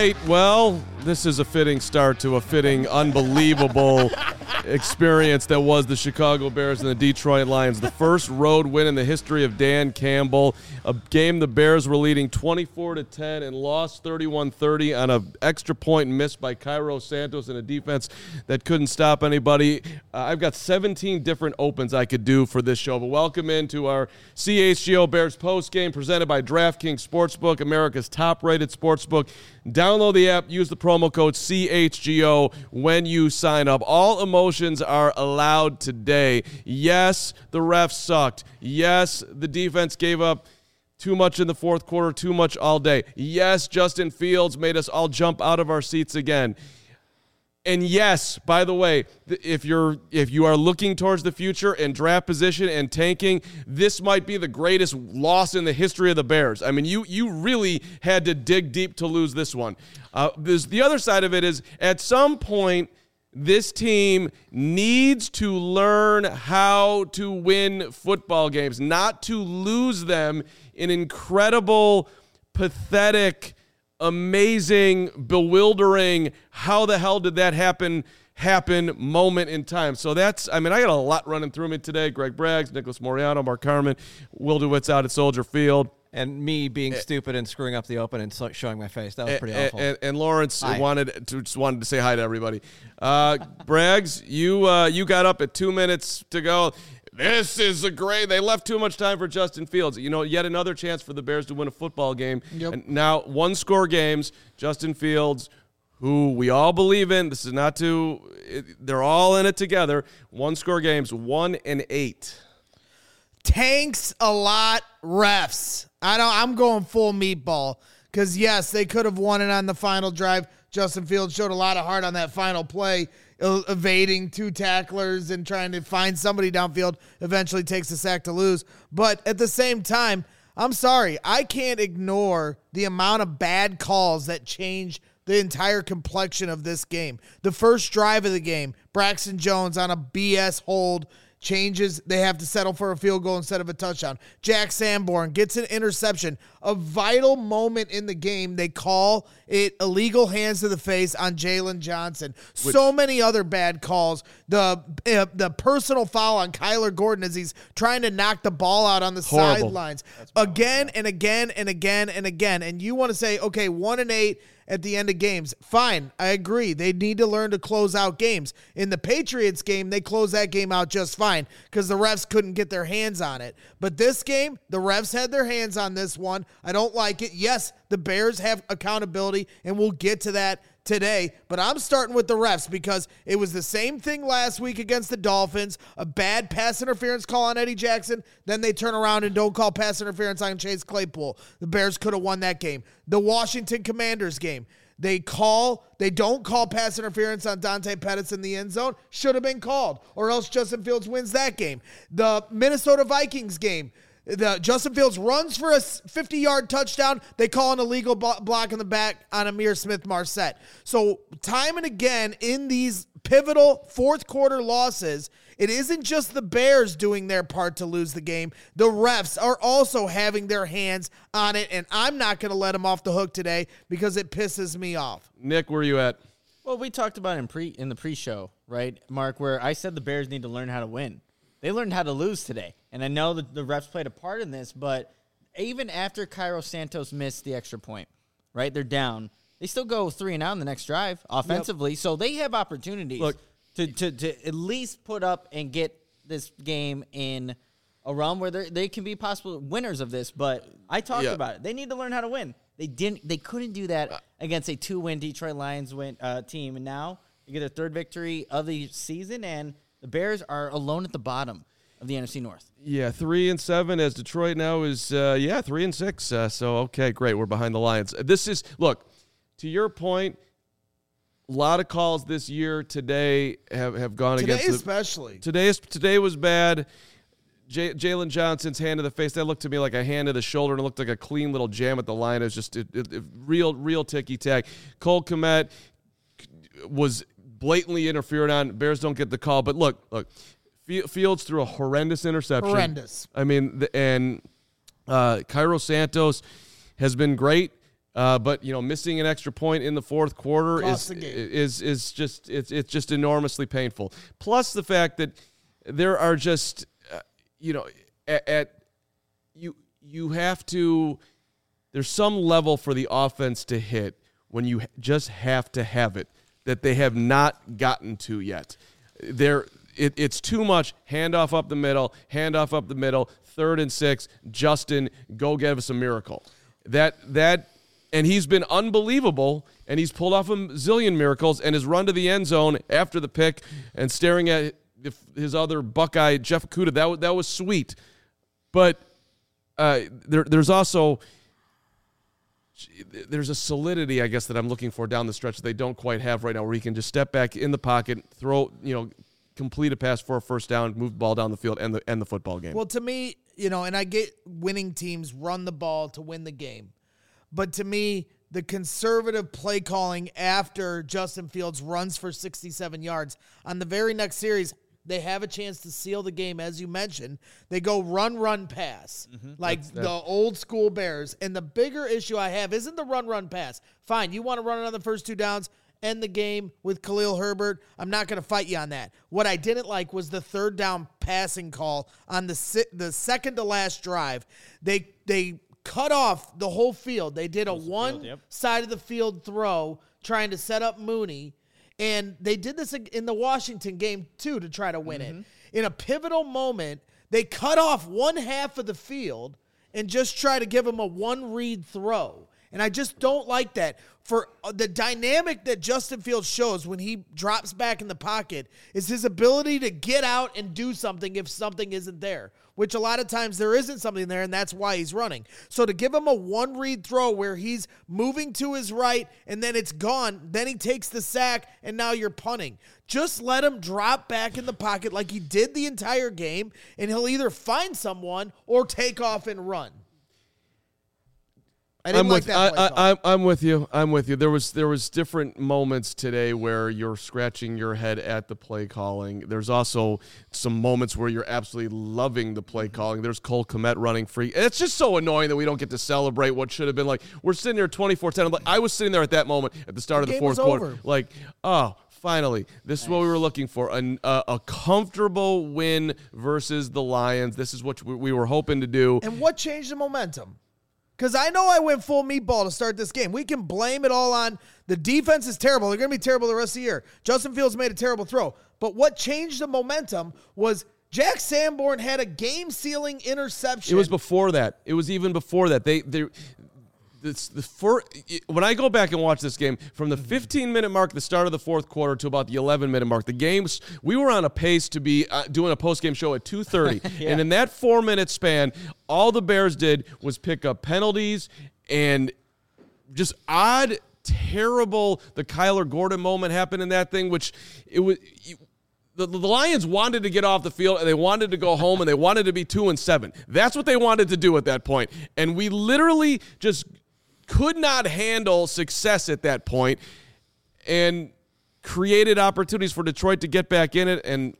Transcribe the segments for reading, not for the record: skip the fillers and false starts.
right. Well, this is a fitting start to a fitting, unbelievable experience that was the Chicago Bears and the Detroit Lions. The first road win in the history of Dan Campbell. A game the Bears were leading 24-10 and lost 31-30 on an extra point missed by Cairo Santos and a defense that couldn't stop anybody. I've got 17 different opens I could do for this show, but welcome into our CHGO Bears post game presented by DraftKings Sportsbook, America's top-rated sportsbook. Download the app, use the promo code CHGO when you sign up. All emotions are allowed today. Yes, the refs sucked. Yes, the defense gave up too much in the fourth quarter, too much all day. Yes, Justin Fields made us all jump out of our seats again. And yes, by the way, if you are looking towards the future and draft position and tanking, this might be the greatest loss in the history of the Bears. I mean, you really had to dig deep to lose this one. The other side of it is, at some point, this team needs to learn how to win football games, not to lose them in incredible, pathetic, amazing, bewildering, how the hell did that happen moment in time. So that's, I got a lot running through me today. Greg Braggs, Nicholas Moriano, Mark Carman, Will DeWitt's out at Soldier Field. And me being stupid and screwing up the open and showing my face. That was pretty awful. And Lawrence wanted to say hi to everybody. Braggs, you got up at 2 minutes to go. This is they left too much time for Justin Fields. Yet another chance for the Bears to win a football game. Yep. And now, one-score games, Justin Fields, who we all believe in. This is not they're all in it together. One-score games, 1-8. Tanks a lot, refs. I'm going full meatball because, yes, they could have won it on the final drive. Justin Fields showed a lot of heart on that final play, evading two tacklers and trying to find somebody downfield, eventually takes the sack to lose. But at the same time, I'm sorry, I can't ignore the amount of bad calls that change the entire complexion of this game. The first drive of the game, Braxton Jones on a BS hold, changes, they have to settle for a field goal instead of a touchdown. Jack Sanborn gets an interception. A vital moment in the game, they call it illegal hands to the face on Jalen Johnson. So many other bad calls. The personal foul on Kyler Gordon as he's trying to knock the ball out on the sidelines. Again and again and again and again. And you want to say, okay, 1-8 at the end of games. Fine, I agree. They need to learn to close out games. In the Patriots game, they closed that game out just fine because the refs couldn't get their hands on it. But this game, the refs had their hands on this one. I don't like it. Yes, the Bears have accountability, and we'll get to that today, but I'm starting with the refs because it was the same thing last week against the Dolphins, a bad pass interference call on Eddie Jackson, then they turn around and don't call pass interference on Chase Claypool. The Bears could have won that game. The Washington Commanders game, they don't call pass interference on Dante Pettis in the end zone, should have been called, or else Justin Fields wins that game. The Minnesota Vikings game, Justin Fields runs for a 50-yard touchdown. They call an illegal block in the back on Amir Smith-Marset. So time and again in these pivotal fourth quarter losses, it isn't just the Bears doing their part to lose the game. The refs are also having their hands on it, and I'm not going to let them off the hook today because it pisses me off. Nick, where are you at? Well, we talked about in the pre-show, right, Mark, where I said the Bears need to learn how to win. They learned how to lose today. And I know that the refs played a part in this, but even after Cairo Santos missed the extra point, right, they're down. They still go 3-and-out in the next drive offensively. Yep. So they have opportunities to at least put up and get this game in a realm where they can be possible winners of this. But I talked about it. They need to learn how to win. They couldn't do that against a 2-win Detroit Lions team. And now they get their third victory of the season, and the Bears are alone at the bottom of the NFC North. Yeah, 3-7 as Detroit now is 3-6. So okay, great. We're behind the Lions. Look, to your point, a lot of calls this year today have gone against especially. Today was bad. Jalen Johnson's hand to the face, that looked to me like a hand to the shoulder, and it looked like a clean little jam at the line. It was just real ticky-tack. Cole Kmet was blatantly interfered on. Bears don't get the call. But look, Fields threw a horrendous interception. Horrendous. I mean, and Cairo Santos has been great. But missing an extra point in the fourth quarter Cost the game. is just it's just enormously painful. Plus the fact that there are just you have to. There's some level for the offense to hit when you just have to have it that they have not gotten to yet. It's too much handoff up the middle, 3rd and 6. Justin, go give us a miracle. And he's been unbelievable, and he's pulled off a zillion miracles, and his run to the end zone after the pick and staring at his other Buckeye, Jeff Okudah, that was sweet. But there's also there's a solidity, I guess, that I'm looking for down the stretch that they don't quite have right now, where he can just step back in the pocket, throw, complete a pass for a first down, move the ball down the field, and the football game. Well, to me, and I get winning teams run the ball to win the game. But to me, the conservative play calling after Justin Fields runs for 67 yards on the very next series, they have a chance to seal the game, as you mentioned. They go run, pass, like the old school Bears. And the bigger issue I have isn't the run, pass. Fine, you want to run it on the first 2 downs, end the game with Khalil Herbert. I'm not going to fight you on that. What I didn't like was the 3rd down passing call on the second to last drive. They cut off the whole field. They did a side of the field throw trying to set up Mooney. And they did this in the Washington game, too, to try to win it. In a pivotal moment, they cut off one half of the field and just try to give him a one-read throw. And I just don't like that. For the dynamic that Justin Fields shows when he drops back in the pocket is his ability to get out and do something if something isn't there, which a lot of times there isn't something there, and that's why he's running. So to give him a one-read throw where he's moving to his right and then it's gone, then he takes the sack, and now you're punting. Just let him drop back in the pocket like he did the entire game, and he'll either find someone or take off and run. I didn't like that play call. I'm with you. There was different moments today where you're scratching your head at the play calling. There's also some moments where you're absolutely loving the play calling. There's Cole Kmet running free. It's just so annoying that we don't get to celebrate what should have been like. We're sitting there 24-10. I was sitting there at that moment at the start of the fourth quarter. Like, oh, finally, this is what we were looking for. A comfortable win versus the Lions. This is what we were hoping to do. And what changed the momentum? Because I know I went full meatball to start this game. We can blame it all on the defense is terrible. They're going to be terrible the rest of the year. Justin Fields made a terrible throw. But what changed the momentum was Jack Sanborn had a game-sealing interception. It was before that. It was even before that. When I go back and watch this game, from the 15-minute mark at the start of the fourth quarter to about the 11-minute mark, we were on a pace to be doing a post-game show at 2:30. Yeah. And in that 4-minute span, all the Bears did was pick up penalties and just odd, terrible, the Kyler Gordon moment happened in that thing, which it was... The Lions wanted to get off the field, and they wanted to go home, and they wanted to be 2-7. That's what they wanted to do at that point. And we literally just could not handle success at that point and created opportunities for Detroit to get back in it. And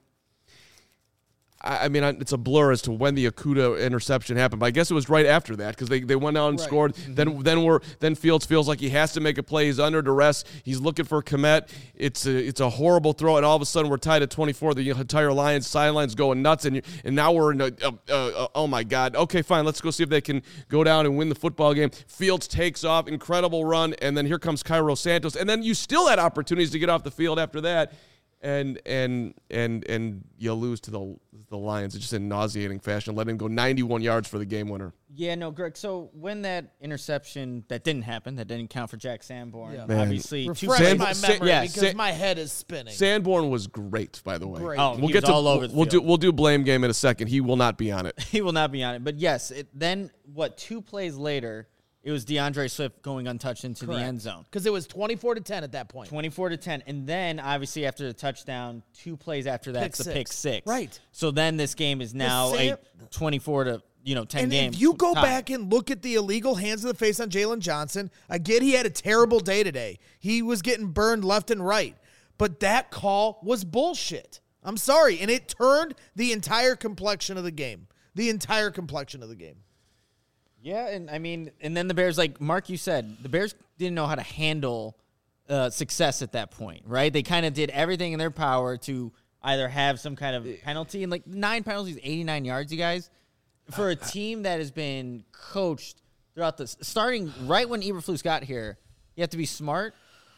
I mean, it's a blur as to when the Okudah interception happened, but I guess it was right after that because they went out and scored. Then Fields feels like he has to make a play. He's under duress. He's looking for Kmet. It's a horrible throw, and all of a sudden we're tied at 24. The entire Lions sidelines going nuts, and now we're in oh my God. Okay, fine. Let's go see if they can go down and win the football game. Fields takes off, incredible run, and then here comes Cairo Santos, and then you still had opportunities to get off the field after that. And you lose to the Lions in just a nauseating fashion, letting them go 91 yards for the game winner. Yeah, no, Greg. So when that interception that didn't happen, that didn't count for Jack Sanborn. Yeah. Obviously, refresh my memory because my head is spinning. Sanborn was great, by the way. Great. Oh, we'll get to all over the field. We'll do blame game in a second. He will not be on it. He will not be on it. But yes, then 2 plays later. It was DeAndre Swift going untouched into the end zone. Because it was 24-10 at that point. 24-10. And then, obviously, after the touchdown, 2 plays after that, it's the pick six. Right. So then this game is now a 24-10 and game. If you go back and look at the illegal hands to the face on Jalen Johnson, I get he had a terrible day today. He was getting burned left and right. But that call was bullshit. I'm sorry. And it turned the entire complexion of the game. Yeah, and I mean, and then the Bears, like Mark, you said, the Bears didn't know how to handle success at that point, right? They kind of did everything in their power to either have some kind of penalty, and like 9 penalties, 89 yards, you guys, for a team that has been coached throughout this, starting right when Eberflus got here. You have to be smart.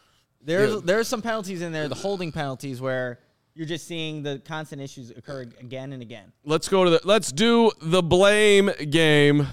There's some penalties in there, the holding penalties, where you're just seeing the constant issues occur again and again. Let's do the blame game.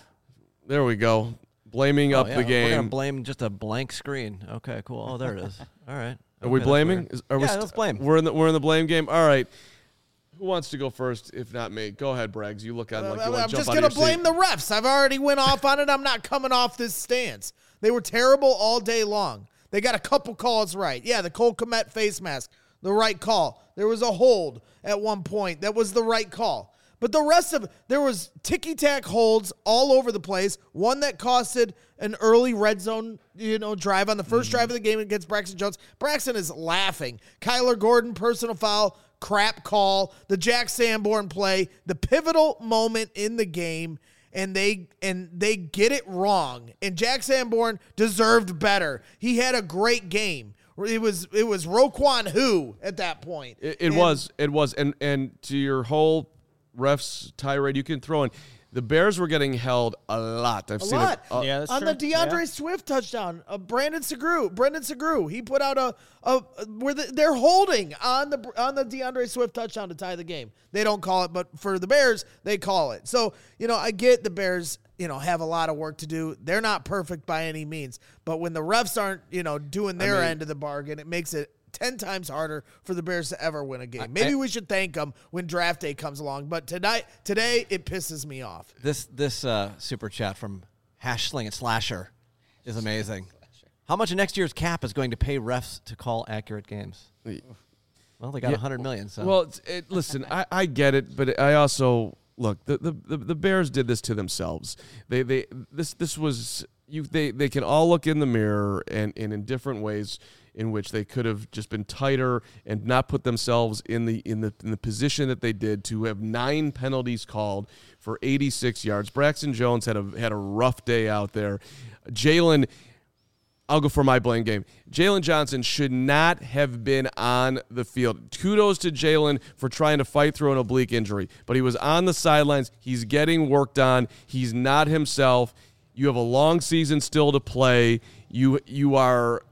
There we go. Blaming up the game. We're going to blame just a blank screen. Okay, cool. Oh, there it is. All right. Are we blaming? Let's blame. We're in the blame game. All right. Who wants to go first? If not me, go ahead, Braggs. You look on like you want to jump out of your seat. I'm just going to blame the refs. I've already went off on it. I'm not coming off this stance. They were terrible all day long. They got a couple calls right. Yeah, the Cole Kmet face mask, the right call. There was a hold at one point. That was the right call. But the rest of there was ticky-tack holds all over the place. One that costed an early red zone, drive on the first drive of the game against Braxton Jones. Braxton is laughing. Kyler Gordon, personal foul, crap call. The Jack Sanborn play, the pivotal moment in the game, and they get it wrong. And Jack Sanborn deserved better. He had a great game. It was Roquan who at that point. It was. And to your whole refs tirade, you can throw in the Bears were getting held a lot. I've seen it. Yeah, that's on true. the DeAndre Swift touchdown, Brendan Segru, he put out where they're holding on the DeAndre Swift touchdown to tie the game. They don't call it, but for the Bears, they call it. So I get the Bears. Have a lot of work to do. They're not perfect by any means, but when the refs aren't, doing their end of the bargain, it makes it 10 times harder for the Bears to ever win a game. Maybe we should thank them when draft day comes along, but today it pisses me off. This super chat from #Slasher is amazing. How much of next year's cap is going to pay refs to call accurate games? Well, they got $100 million. So well, listen, I get it, but I also look. The Bears did this to themselves. They can all look in the mirror and in different ways in which they could have just been tighter and not put themselves in the position that they did to have 9 penalties called for 86 yards. Braxton Jones had a rough day out there. Jalen, I'll go for my blame game. Jalen Johnson should not have been on the field. Kudos to Jalen for trying to fight through an oblique injury, but he was on the sidelines. He's getting worked on. He's not himself. You have a long season still to play. You are.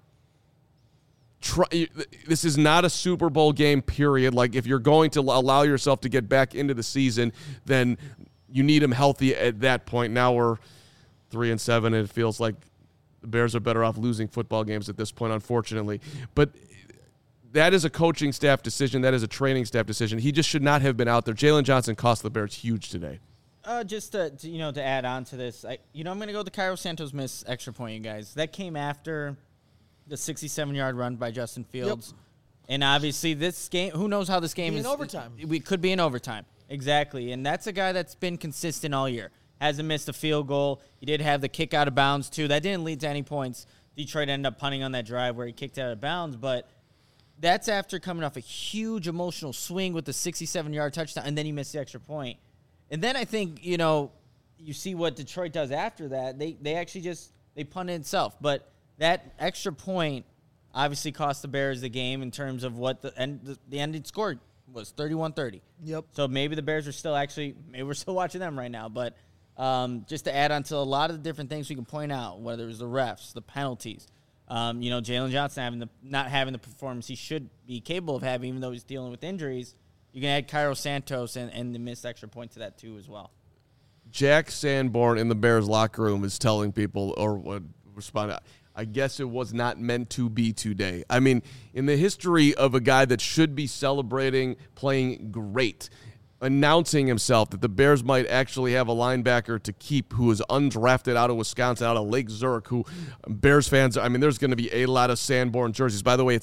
This is not a Super Bowl game, period. Like, if you're going to allow yourself to get back into the season, then you need him healthy at that point. Now we're 3-7, and it feels like the Bears are better off losing football games at this point, unfortunately. But that is a coaching staff decision. That is a training staff decision. He just should not have been out there. Jalen Johnson cost the Bears huge today. Just to add on to this, I'm going to go with the Cairo Santos miss extra point, you guys. That came after the 67-yard run by Justin Fields. Yep. And obviously this game, who knows how this game is. In overtime. We could be in overtime. Exactly. And that's a guy that's been consistent all year. Hasn't missed a field goal. He did have the kick out of bounds, too. That didn't lead to any points. Detroit ended up punting on that drive where he kicked out of bounds. But that's after coming off a huge emotional swing with the 67-yard touchdown, and then he missed the extra point. And then I think, you see what Detroit does after that. They actually they punted itself. But that extra point obviously cost the Bears the game in terms of what the ending score was, 31-30. Yep. So maybe the Bears are maybe we're still watching them right now. But just to add on to a lot of the different things we can point out, whether it was the refs, the penalties, Jalen Johnson not having the performance he should be capable of having, even though he's dealing with injuries. You can add Cairo Santos and the missed extra point to that too as well. Jack Sanborn in the Bears locker room is telling people, or would respond, I guess it was not meant to be today. I mean, in the history of a guy that should be celebrating, playing great, announcing himself that the Bears might actually have a linebacker to keep who is undrafted out of Wisconsin, out of Lake Zurich, who Bears fans, there's going to be a lot of Sanborn jerseys. By the way, it's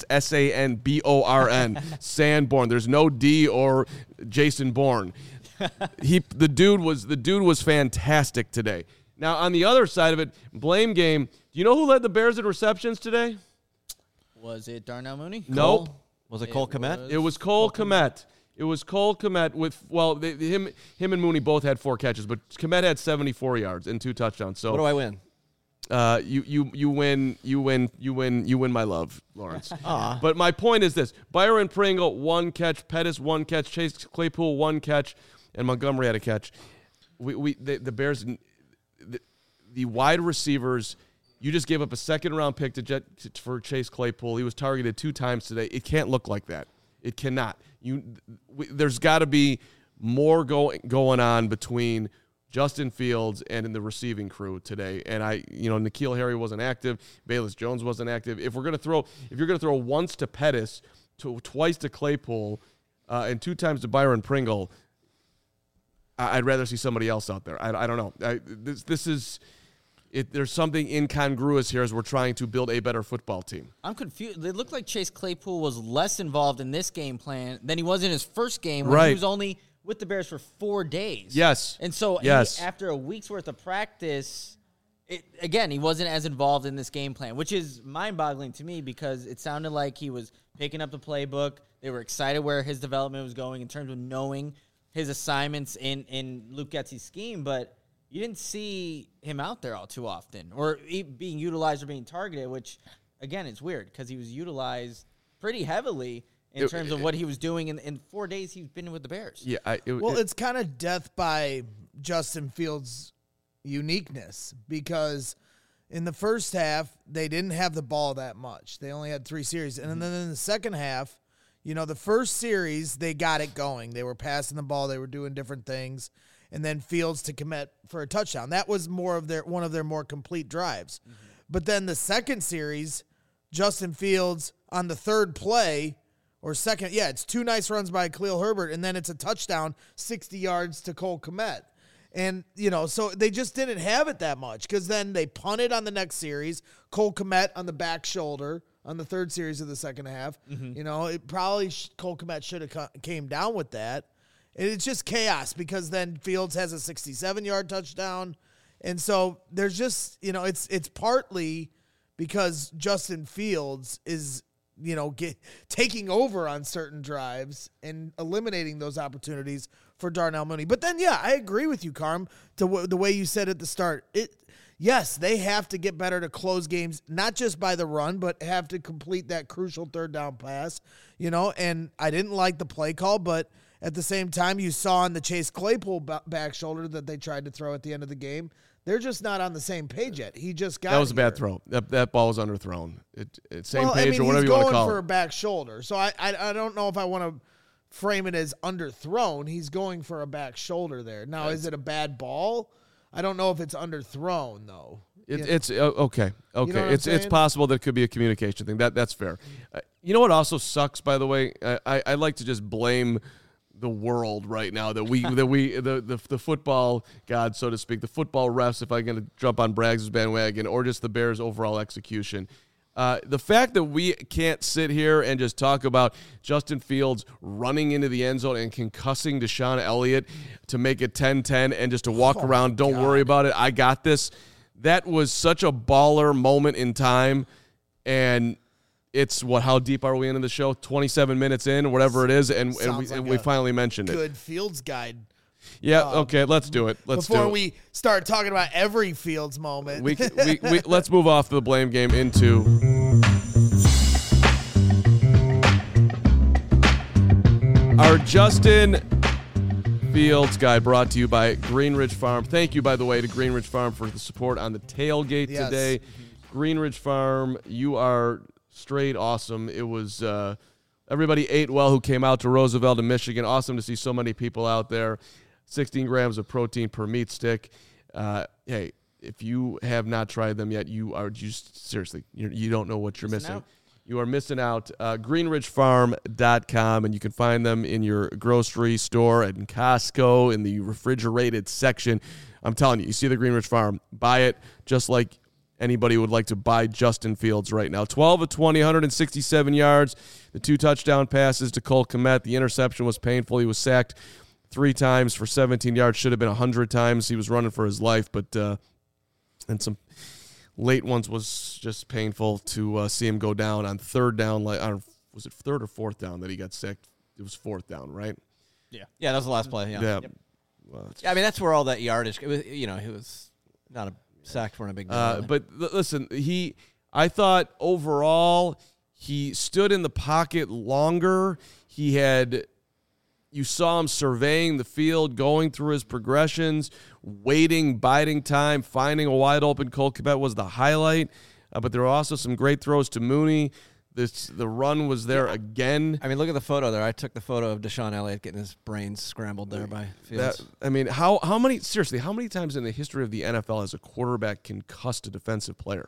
Sanborn, Sanborn. There's no D or Jason Bourne. The dude was fantastic today. Now, on the other side of it, blame game. Do you know who led the Bears in receptions today? Was it Darnell Mooney? Nope. Was it Cole Kmet? It was Cole Kmet. It was Cole Kmet with him and Mooney both had 4 catches, but Kmet had 74 yards and 2 touchdowns. So What do I win? You win my love, Lawrence. But my point is this: Byron Pringle 1 catch, Pettis 1 catch, Chase Claypool 1 catch, and Montgomery had a catch. The Bears, the wide receivers. You just gave up a second-round pick for Chase Claypool. He was targeted 2 times today. It can't look like that. It cannot. There's got to be more going on between Justin Fields and in the receiving crew today. And N'Keal Harry wasn't active. Bayless Jones wasn't active. If you're going to throw once to Pettis, twice to Claypool, and 2 times to Byron Pringle, I'd rather see somebody else out there. I don't know. This is. There's something incongruous here as we're trying to build a better football team. I'm confused. It looked like Chase Claypool was less involved in this game plan than he was in his first game when he was only with the Bears for 4 days. Yes. And so after a week's worth of practice, he wasn't as involved in this game plan, which is mind-boggling to me because it sounded like he was picking up the playbook. They were excited where his development was going in terms of knowing his assignments in Luke Getsy's scheme, but you didn't see him out there all too often or being utilized or being targeted, which, again, it's weird because he was utilized pretty heavily in terms of what he was doing in 4 days he's been with the Bears. Yeah, it's kind of death by Justin Fields' uniqueness because in the first half, they didn't have the ball that much. They only had 3 series. And then in the second half, the first series, they got it going. They were passing the ball. They were doing different things. And then Fields to commit for a touchdown. That was one of their more complete drives. Mm-hmm. But then the second series, Justin Fields on the third play or second, it's 2 nice runs by Khalil Herbert, and then it's a touchdown, 60 yards to Cole Kmet. And, so they just didn't have it that much because then they punted on the next series, Cole Kmet on the back shoulder on the third series of the second half. Mm-hmm. It probably Cole Kmet should have came down with that. And it's just chaos because then Fields has a 67-yard touchdown. And so there's just, it's partly because Justin Fields is, taking over on certain drives and eliminating those opportunities for Darnell Mooney. But then, I agree with you, Carm, to the way you said at the start. Yes, they have to get better to close games, not just by the run, but have to complete that crucial third down pass, and I didn't like the play call, but at the same time, you saw on the Chase Claypool back shoulder that they tried to throw at the end of the game. They're just not on the same page yet. He just got that was a bad throw. That ball was underthrown. Same page or whatever you want to call it. He's going for a back shoulder, so I don't know if I want to frame it as underthrown. He's going for a back shoulder there. Now, is it a bad ball? I don't know if it's underthrown though. It's okay. You know It's possible that it could be a communication thing. That's fair. You know what also sucks, by the way? I like to just blame the world right now the football god, so to speak, the football refs, if I'm going to jump on Braggs' bandwagon, or just the Bears' overall execution. The fact that we can't sit here and just talk about Justin Fields running into the end zone and concussing Deshaun Elliott to make it 10-10 and just to walk around, don't worry about it, I got this. That was such a baller moment in time, and it's how deep are we into the show? 27 minutes in, whatever it is, and we finally mentioned it. Good Fields guide. Yeah, okay, let's do it. Before we start talking about every Fields moment. We let's move off the blame game into our Justin Fields guide, brought to you by Greenridge Farm. Thank you, by the way, to Greenridge Farm for the support on the tailgate today. Greenridge Farm, you are straight awesome. It was everybody ate well who came out to Roosevelt in Michigan. Awesome to see so many people out there. 16 grams of protein per meat stick. Hey, if you have not tried them yet, you don't know what you're missing. You are missing out. GreenridgeFarm.com, and you can find them in your grocery store at Costco in the refrigerated section. I'm telling you, you see the Greenridge Farm, buy it just like anybody would like to buy Justin Fields right now. 12 of 20, 167 yards. The 2 touchdown passes to Cole Kmet. The interception was painful. He was sacked 3 times for 17 yards. Should have been 100 times. He was running for his life, but and some late ones was just painful to see him go down on third down. Was it third or fourth down that he got sacked? It was fourth down, right? Yeah, that was the last play. Yeah. Yeah. Well, Yeah, I mean, that's where all that yardage. It was, he was not a sack for a big deal. but listen, I thought overall he stood in the pocket longer. You saw him surveying the field, going through his progressions, waiting, biding time, finding a wide open Cole Kmet was the highlight. But there were also some great throws to Mooney. The run was there again. I mean, look at the photo there. I took the photo of Deshaun Elliott getting his brains scrambled there by Fields. How many times in the history of the NFL has a quarterback concussed a defensive player?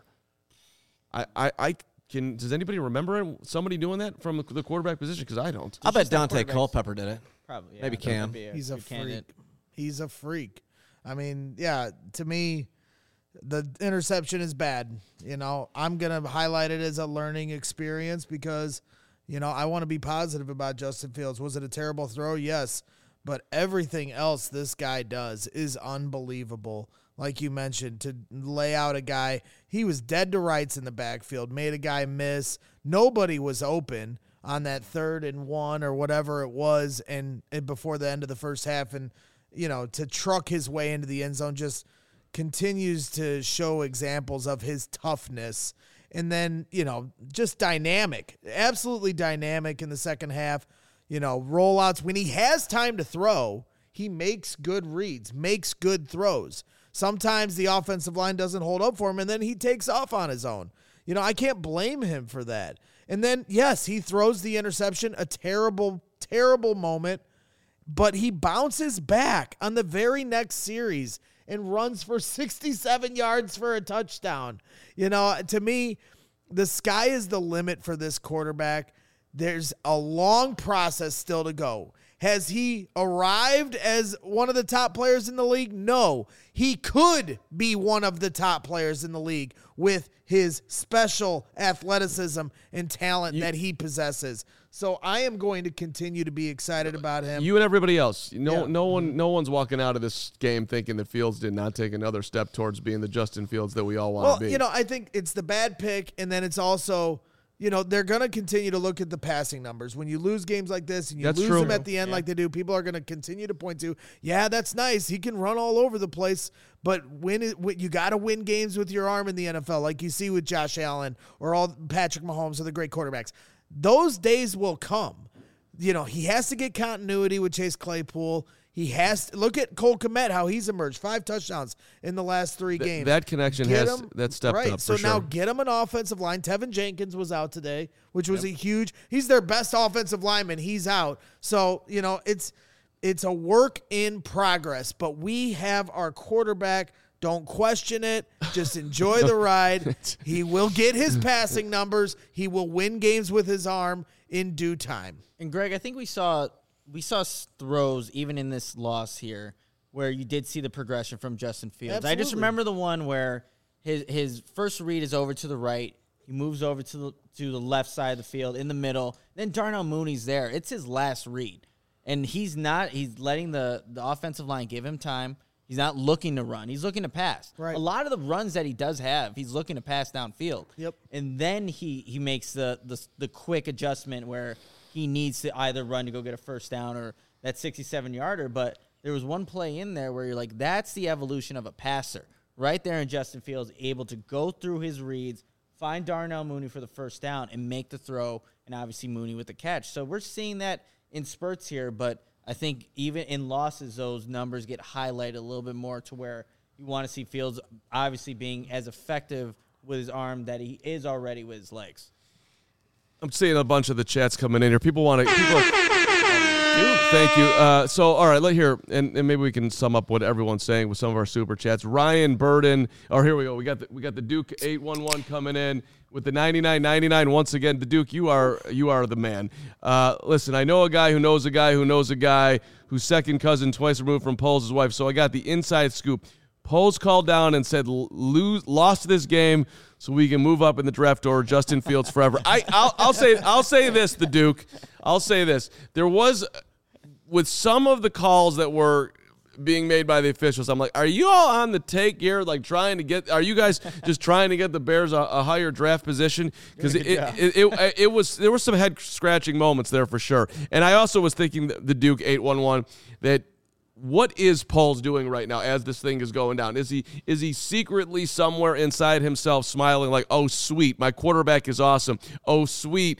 Does anybody remember somebody doing that from the quarterback position? Because I don't. I'll bet Dante Culpepper did it. Probably. Yeah, Maybe Cam. He's a freak. He's a freak. I mean, yeah, to me, the interception is bad. I'm going to highlight it as a learning experience because, I want to be positive about Justin Fields. Was it a terrible throw? Yes. But everything else this guy does is unbelievable. Like you mentioned, to lay out a guy, he was dead to rights in the backfield, made a guy miss. Nobody was open on that 3rd and 1 or whatever it was, and before the end of the first half, and to truck his way into the end zone just continues to show examples of his toughness. And then, just dynamic, absolutely dynamic in the second half. Rollouts, when he has time to throw, he makes good reads, makes good throws. Sometimes the offensive line doesn't hold up for him, and then he takes off on his own. I can't blame him for that. And then, yes, he throws the interception, a terrible, terrible moment, but he bounces back on the very next series and runs for 67 yards for a touchdown. To me, the sky is the limit for this quarterback. There's a long process still to go. Has he arrived as one of the top players in the league? No. He could be one of the top players in the league with his special athleticism and talent that he possesses. So I am going to continue to be excited about him. You and everybody else. No one's walking out of this game thinking that Fields did not take another step towards being the Justin Fields that we all want to be. I think it's the bad pick, and then it's also – they're going to continue to look at the passing numbers. When you lose games like this and you lose them at the end like they do, people are going to continue to point to, yeah, that's nice. He can run all over the place, but you got to win games with your arm in the NFL, like you see with Josh Allen or all Patrick Mahomes or the great quarterbacks. Those days will come. He has to get continuity with Chase Claypool. He has to look at Cole Kmet, how he's emerged, 5 touchdowns in the last 3 games. That connection that stepped up. So now get him an offensive line. Tevin Jenkins was out today, which was he's their best offensive lineman. He's out. So, it's a work in progress, but we have our quarterback. Don't question it. Just enjoy the ride. He will get his passing numbers. He will win games with his arm in due time. And Greg, I think we saw throws even in this loss here where you did see the progression from Justin Fields. Absolutely. I just remember the one where his first read is over to the right. He moves over to the left side of the field in the middle. Then Darnell Mooney's there. It's his last read. And he's letting the offensive line give him time. He's not looking to run. He's looking to pass. Right. A lot of the runs that he does have, he's looking to pass downfield. Yep. And then he makes the quick adjustment where he needs to either run to go get a first down or that 67-yarder. But there was one play in there where you're like, that's the evolution of a passer. Right there in Justin Fields, able to go through his reads, find Darnell Mooney for the first down, and make the throw, and obviously Mooney with the catch. So we're seeing that in spurts here, but I think even in losses, those numbers get highlighted a little bit more to where you want to see Fields obviously being as effective with his arm that he is already with his legs. I'm seeing a bunch of the chats coming in here. People want to. Thank you. So, all right, let here, and maybe we can sum up what everyone's saying with some of our super chats. Ryan Burden. Oh, here we go. We got the Duke 811 coming in with the 99.99. Once again, the Duke, you are the man. Listen, I know a guy who knows a guy who knows a guy who's second cousin twice removed from Poles' wife. So I got the inside scoop. Poles called down and said, lost this game so we can move up in the draft order. Justin Fields forever. I'll say this, the Duke. I'll say this. There was, with some of the calls that were being made by the officials. I'm like, are you all on the take here? Like are you guys just trying to get the Bears a higher draft position? Because there were some head scratching moments there for sure. And I also was thinking the Duke 811 that what is Poles doing right now as this thing is going down? Is he secretly somewhere inside himself smiling like, oh sweet, my quarterback is awesome. Oh sweet,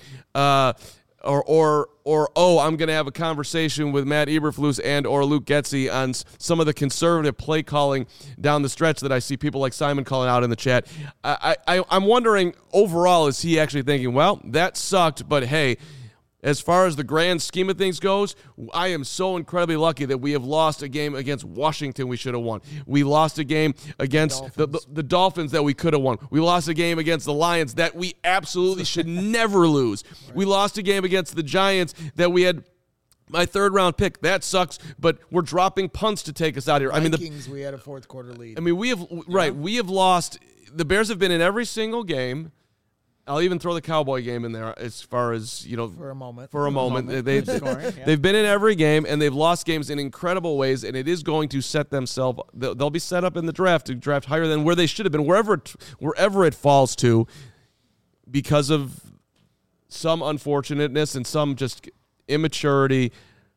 or oh, I'm going to have a conversation with Matt Eberflus and or Luke Getsy on some of the conservative play calling down the stretch that I see people like Simon calling out in the chat. I'm wondering overall, is he actually thinking, well, that sucked, but hey, as far as the grand scheme of things goes, I am so incredibly lucky that we have lost a game against Washington we should have won. We lost a game against the Dolphins that we could have won. We lost a game against the Lions that we absolutely should never lose. Right. We lost a game against the Giants that we had my third-round pick. That sucks, but we're dropping punts to take us out here. Vikings, we had a fourth-quarter lead. I mean, we have lost. The Bears have been in every single game. I'll even throw the Cowboy game in there as far as, for a moment. They've been in every game, and they've lost games in incredible ways, and it is going to set themselves – they'll be set up in the draft to draft higher than where they should have been, wherever it falls to, because of some unfortunateness and some just immaturity,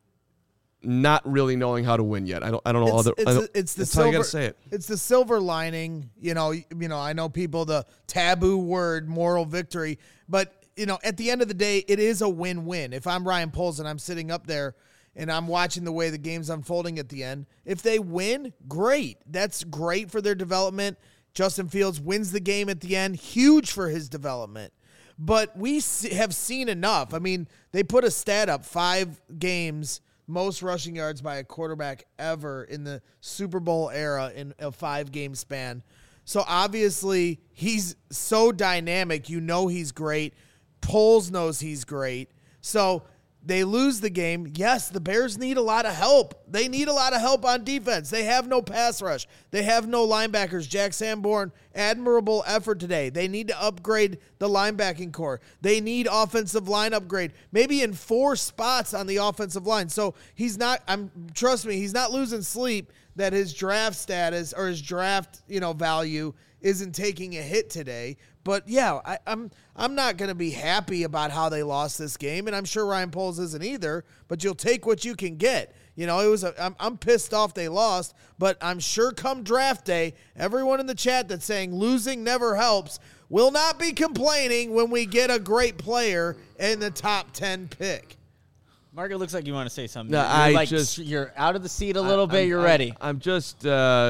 not really knowing how to win yet. I don't know. That's how you gotta say it. It's the silver lining. I know people, the taboo word, moral victory, but at the end of the day, it is a win-win. If I'm Ryan Poles and I'm sitting up there and I'm watching the way the game's unfolding at the end, if they win, great. That's great for their development. Justin Fields wins the game at the end, huge for his development. But we have seen enough. I mean, they put a stat up, 5 games. Most rushing yards by a quarterback ever in the Super Bowl era in a 5-game span. So obviously he's so dynamic. He's great. Poles knows he's great. So they lose the game. Yes, the Bears need a lot of help. They need a lot of help on defense. They have no pass rush. They have no linebackers. Jack Sanborn, admirable effort today. They need to upgrade the linebacking core. They need offensive line upgrade, maybe in 4 spots on the offensive line. So trust me, he's not losing sleep that his draft status or his draft, value isn't taking a hit today. But yeah, I'm not going to be happy about how they lost this game, and I'm sure Ryan Poles isn't either. But you'll take what you can get. I'm pissed off they lost, but I'm sure come draft day, everyone in the chat that's saying losing never helps will not be complaining when we get a great player in the top 10 pick. Mark, it looks like you want to say something. No, you're out of the seat a little bit. You're ready. I'm just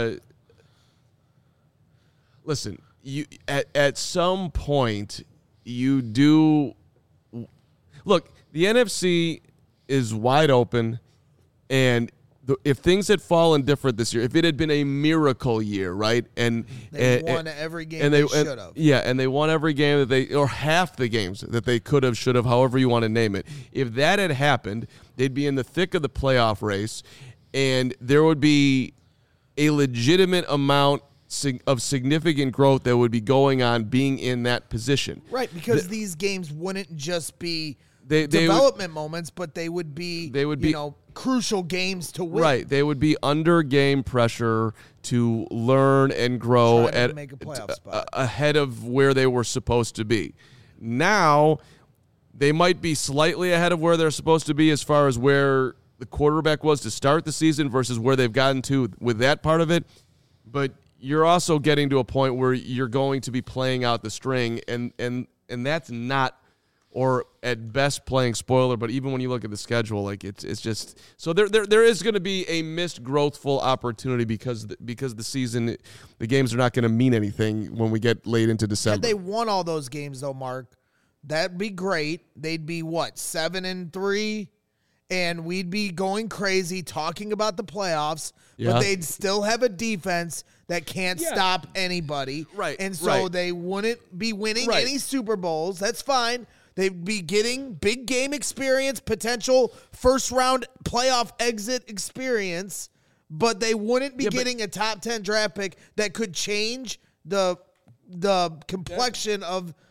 listen. You at some point you do look. The NFC is wide open, and if things had fallen different this year, if it had been a miracle year, right, and they won every game they should have, and they won every game or half the games that they could have, should have, however you want to name it. If that had happened, they'd be in the thick of the playoff race, and there would be a legitimate amount of significant growth that would be going on being in that position. Right, because these games wouldn't just be development moments, but they would be crucial games to win. Right, they would be under game pressure to learn and grow make a playoff spot ahead of where they were supposed to be. Now, they might be slightly ahead of where they're supposed to be as far as where the quarterback was to start the season versus where they've gotten to with that part of it, but you're also getting to a point where you're going to be playing out the string, and that's not, or at best playing spoiler, but even when you look at the schedule, like it's just so there is going to be a missed growthful opportunity because the season, the games are not going to mean anything when we get late into December. Had they won all those games though, Mark, that'd be great. They'd be 7-3. And we'd be going crazy talking about the playoffs, but they'd still have a defense that can't stop anybody. Right. And so they wouldn't be winning any Super Bowls. That's fine. They'd be getting big game experience, potential first-round playoff exit experience, but they wouldn't be getting a top 10 draft pick that could change the complexion of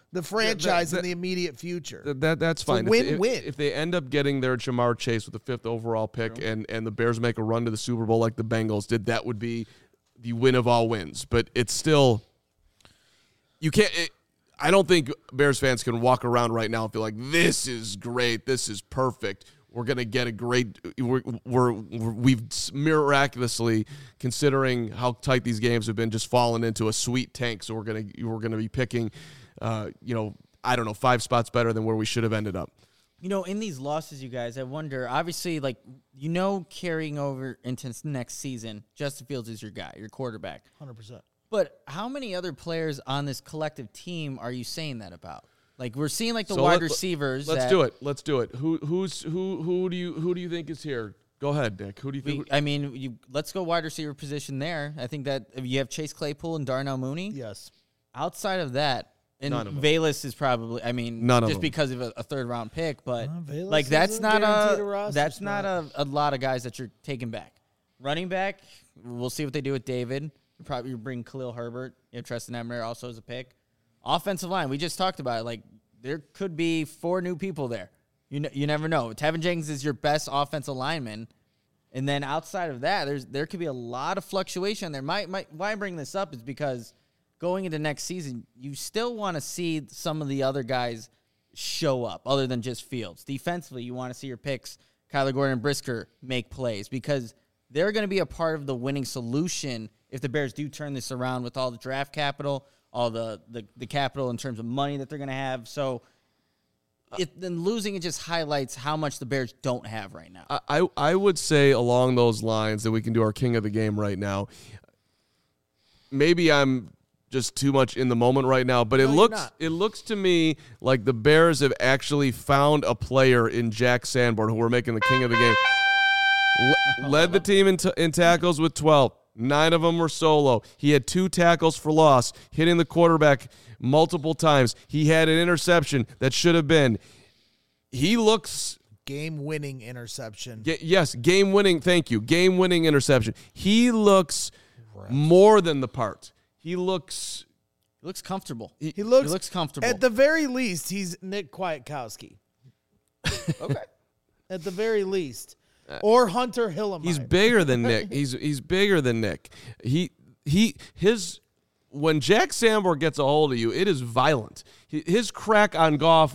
the franchise in the immediate future. That's fine. Win-win. If they end up getting their Jamar Chase with the 5th overall pick and the Bears make a run to the Super Bowl like the Bengals did, that would be the win of all wins. But it's still – you can't I don't think Bears fans can walk around right now and feel like this is great, this is perfect. We're going to get a great we've miraculously, considering how tight these games have been, just fallen into a sweet tank. So we're going to be picking, I don't know, 5 spots better than where we should have ended up. In these losses, you guys, I wonder, obviously, carrying over into next season, Justin Fields is your guy, your quarterback. 100%. But how many other players on this collective team are you saying that about? Like, we're seeing wide receivers. Let's do it. Who do you think is here? Go ahead, Nick. Who do you think? Let's go wide receiver position there. I think that if you have Chase Claypool and Darnell Mooney. Yes. Outside of that, and None of them. Velus is probably. None of just them. because of a 3rd-round pick, but Velus that's isn't not guaranteed a roster that's not spot. a lot of guys that you're taking back. Running back, we'll see what they do with David. Probably bring Khalil Herbert. Tristan Emmer also as a pick. Offensive line, we just talked about it. There could be 4 new people there. You never know. Tevin Jenkins is your best offensive lineman. And then outside of that, there could be a lot of fluctuation there. Why I bring this up is because going into next season, you still want to see some of the other guys show up other than just Fields. Defensively, you want to see your picks, Kyler Gordon and Brisker, make plays because they're going to be a part of the winning solution if the Bears do turn this around with all the draft capital, all the capital in terms of money that they're going to have. So then losing it just highlights how much the Bears don't have right now. I would say along those lines that we can do our king of the game right now. Maybe I'm just too much in the moment right now, but it looks to me like the Bears have actually found a player in Jack Sanborn who we're making the king of the game. Led the team in tackles with 12. 9 of them were solo. He had 2 tackles for loss, hitting the quarterback multiple times. He had an interception that should have been. He looks... Game-winning interception. Yes, game-winning. Thank you. Game-winning interception. He looks more than the part. He looks comfortable. He looks comfortable. At the very least, he's Nick Kwiatkowski. Okay. At the very least. Or Hunter Hillenmeyer. He's bigger than Nick. He's bigger than Nick. When Jack Sanborn gets a hold of you, it is violent. His crack on Goff.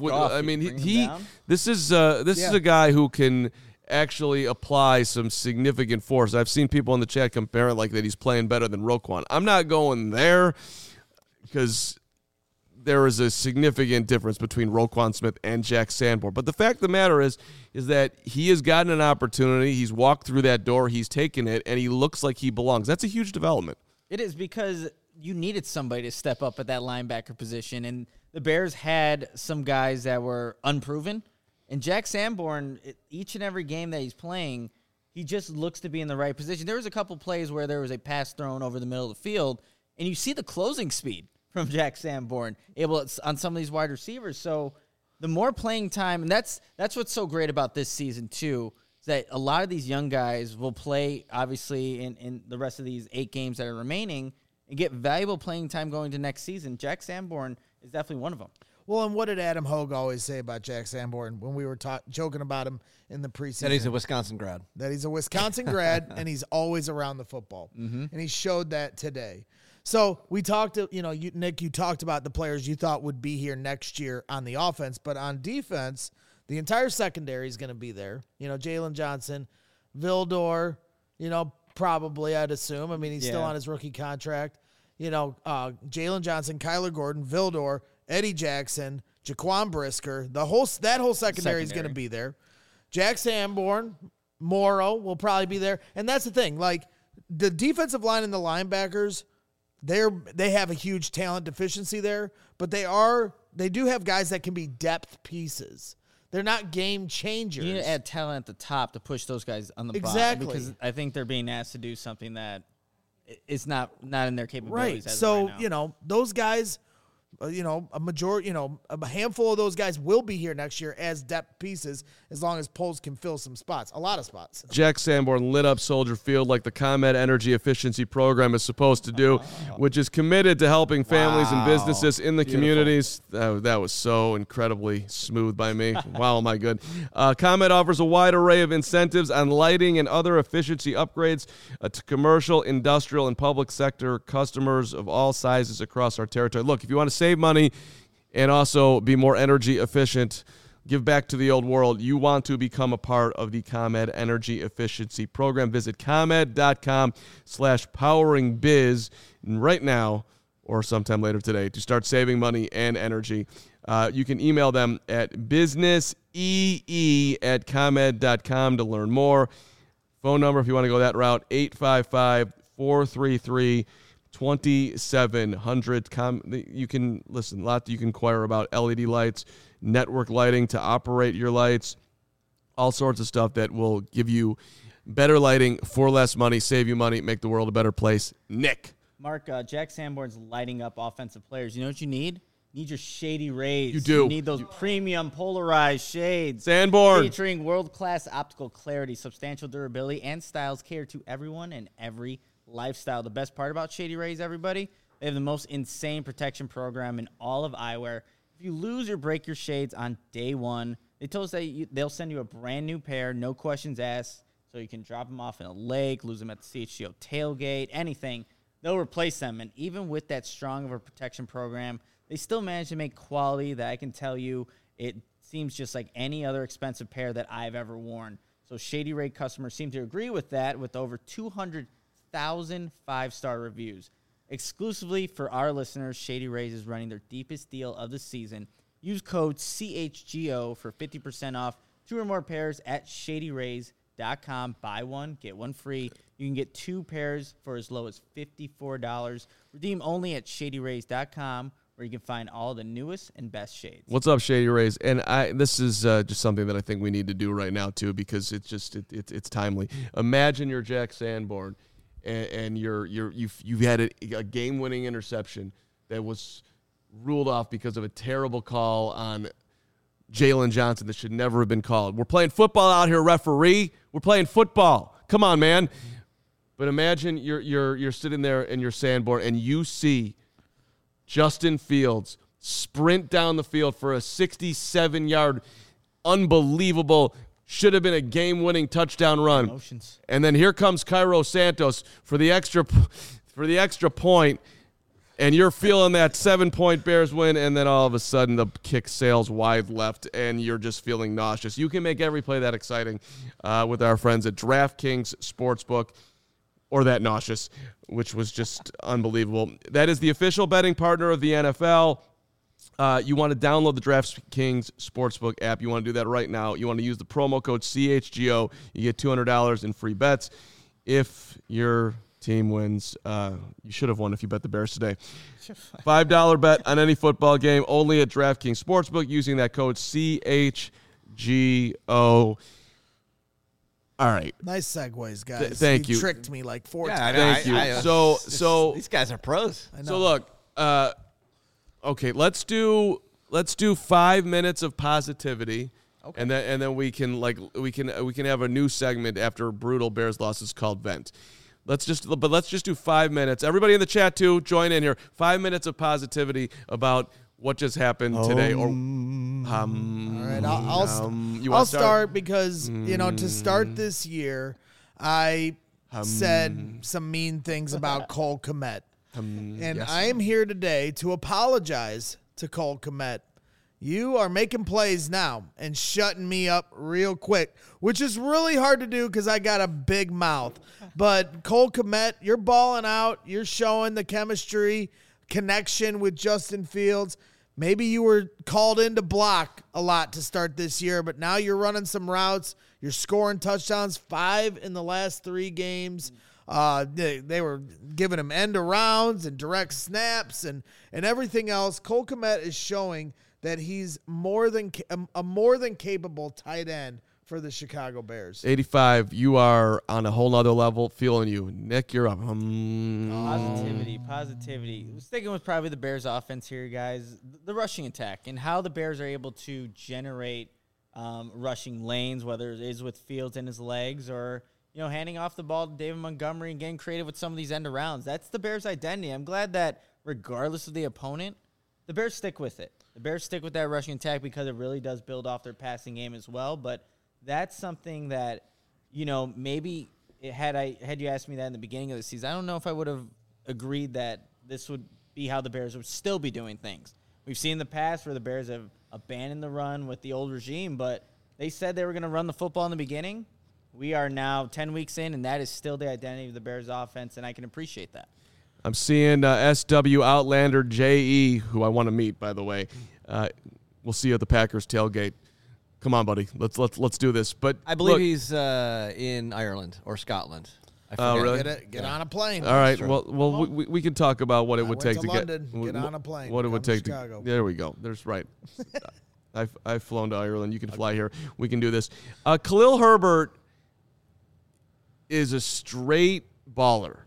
This is a guy who can actually apply some significant force. I've seen people in the chat compare it like that he's playing better than Roquan. I'm not going there because there is a significant difference between Roquan Smith and Jack Sanborn. But the fact of the matter is that he has gotten an opportunity. He's walked through that door. He's taken it, and he looks like he belongs. That's a huge development. It is because you needed somebody to step up at that linebacker position, and the Bears had some guys that were unproven. And Jack Sanborn, each and every game that he's playing, he just looks to be in the right position. There was a couple plays where there was a pass thrown over the middle of the field, and you see the closing speed from Jack Sanborn on some of these wide receivers. So the more playing time, and that's what's so great about this season too, is that a lot of these young guys will play, obviously, in the rest of these 8 games that are remaining and get valuable playing time going to next season. Jack Sanborn is definitely one of them. Well, and what did Adam Hogue always say about Jack Sanborn when we were joking about him in the preseason? That he's a Wisconsin grad. That he's a Wisconsin grad, and he's always around the football. Mm-hmm. And he showed that today. So we talked, Nick, you talked about the players you thought would be here next year on the offense, but on defense, the entire secondary is going to be there. Jalen Johnson, Vildor, probably, I'd assume. I mean, he's still on his rookie contract. Jalen Johnson, Kyler Gordon, Vildor, Eddie Jackson, Jaquan Brisker. That whole secondary is going to be there. Jack Sanborn, Morrow will probably be there. And that's the thing. Like, the defensive line and the linebackers, they have a huge talent deficiency there, but they do have guys that can be depth pieces. They're not game changers. You need to add talent at the top to push those guys on the bottom, because I think they're being asked to do something that is not in their capabilities. Right. So, those guys, a majority, a handful of those guys will be here next year as depth pieces, as long as Poles can fill some spots, a lot of spots. Jack Sanborn lit up Soldier Field like the ComEd Energy Efficiency Program is supposed to do, which is committed to helping families and businesses in the communities. That was so incredibly smooth by me. Wow, am I good. ComEd offers a wide array of incentives on lighting and other efficiency upgrades to commercial, industrial, and public sector customers of all sizes across our territory. Look, if you want to save money and also be more energy efficient, give back to the old world, you want to become a part of the ComEd Energy Efficiency Program. Visit ComEd.com/poweringbiz right now or sometime later today to start saving money and energy. You can email them at businessee@comed.com to learn more. Phone number, if you want to go that route, 855-433-2700. You can listen, a lot you can inquire about LED lights, network lighting to operate your lights, all sorts of stuff that will give you better lighting for less money, save you money, make the world a better place. Nick. Mark, Jack Sanborn's lighting up offensive players. You know what you need? You need your Shady Rays. You do. You need those premium polarized shades. Sanborn. Featuring world-class optical clarity, substantial durability, and styles cater to everyone and every lifestyle. The best part about Shady Rays, everybody, they have the most insane protection program in all of eyewear. If you lose or break your shades on day one, they told us that they'll send you a brand new pair, no questions asked, so you can drop them off in a lake, lose them at the CHGO tailgate, anything. They'll replace them, and even with that strong of a protection program, they still manage to make quality that I can tell you it seems just like any other expensive pair that I've ever worn. So Shady Ray customers seem to agree with that, with over 200,000 five-star reviews. Exclusively for our listeners, Shady Rays is running their deepest deal of the season. Use code CHGO for 50% off 2 or more pairs at shadyrays.com. Buy one, get one free. You can get 2 pairs for as low as $54. Redeem only at shadyrays.com, where you can find all the newest and best shades. What's up, Shady Rays? And this is just something that I think we need to do right now too, because it's timely. Imagine you're Jack Sanborn, and you've had a game-winning interception that was ruled off because of a terrible call on Jalen Johnson that should never have been called. We're playing football out here, referee. We're playing football. Come on, man. But imagine you're sitting there and you're Sanborn, and you see Justin Fields sprint down the field for a 67-yard, unbelievable, should have been a game-winning touchdown run. Emotions. And then here comes Cairo Santos for the extra point, and you're feeling that 7-point Bears win, and then all of a sudden the kick sails wide left, and you're just feeling nauseous. You can make every play that exciting with our friends at DraftKings Sportsbook. Or that nauseous, which was just unbelievable. That is the official betting partner of the NFL. You want to download the DraftKings Sportsbook app. You want to do that right now. You want to use the promo code CHGO. You get $200 in free bets. If your team wins, you should have won if you bet the Bears today. $5 bet on any football game, only at DraftKings Sportsbook, using that code CHGO. All right. Nice segues, guys. Thank you. Tricked me like 4 Yeah, times. Thank you. So these guys are pros. I know. So look, okay, let's do 5 minutes of positivity, Okay. and then we can have a new segment after brutal Bears losses called Vent. Let's just do 5 minutes. Everybody in the chat too, join in here. 5 minutes of positivity about what just happened today. Or All right, I'll start because, to start this year, I said some mean things about Cole Kmet. And yes. I am here today to apologize to Cole Kmet. You are making plays now and shutting me up real quick, which is really hard to do because I got a big mouth. But Cole Kmet, you're balling out. You're showing the chemistry, connection with Justin Fields. Maybe you were called in to block a lot to start this year, but now you're running some routes. You're scoring touchdowns, 5 in the last 3 games. They were giving him end arounds and direct snaps and everything else. Cole Kmet is showing that he's a more than capable tight end for the Chicago Bears. 85, you are on a whole nother level. Feeling you. Nick, you're up. Positivity. Sticking with probably the Bears offense here, guys. The rushing attack and how the Bears are able to generate rushing lanes, whether it is with Fields and his legs or, handing off the ball to David Montgomery and getting creative with some of these end arounds. That's the Bears' identity. I'm glad that regardless of the opponent, the Bears stick with it. The Bears stick with that rushing attack because it really does build off their passing game as well. But that's something that, maybe had you asked me that in the beginning of the season, I don't know if I would have agreed that this would be how the Bears would still be doing things. We've seen in the past where the Bears have abandoned the run with the old regime, but they said they were going to run the football in the beginning. We are now 10 weeks in, and that is still the identity of the Bears offense, and I can appreciate that. I'm seeing SW Outlander JE, who I want to meet, by the way. We'll see you at the Packers tailgate. Come on, buddy. Let's do this. But I believe look, he's in Ireland or Scotland. I Oh, forget. really? Get on a plane. all right. true. Well, we can talk about what it would went take to to London, get get on a plane, What it would come to take to. Chicago. There we go. There's right. I've flown to Ireland. You can fly here. We can do this. Khalil Herbert is a straight baller.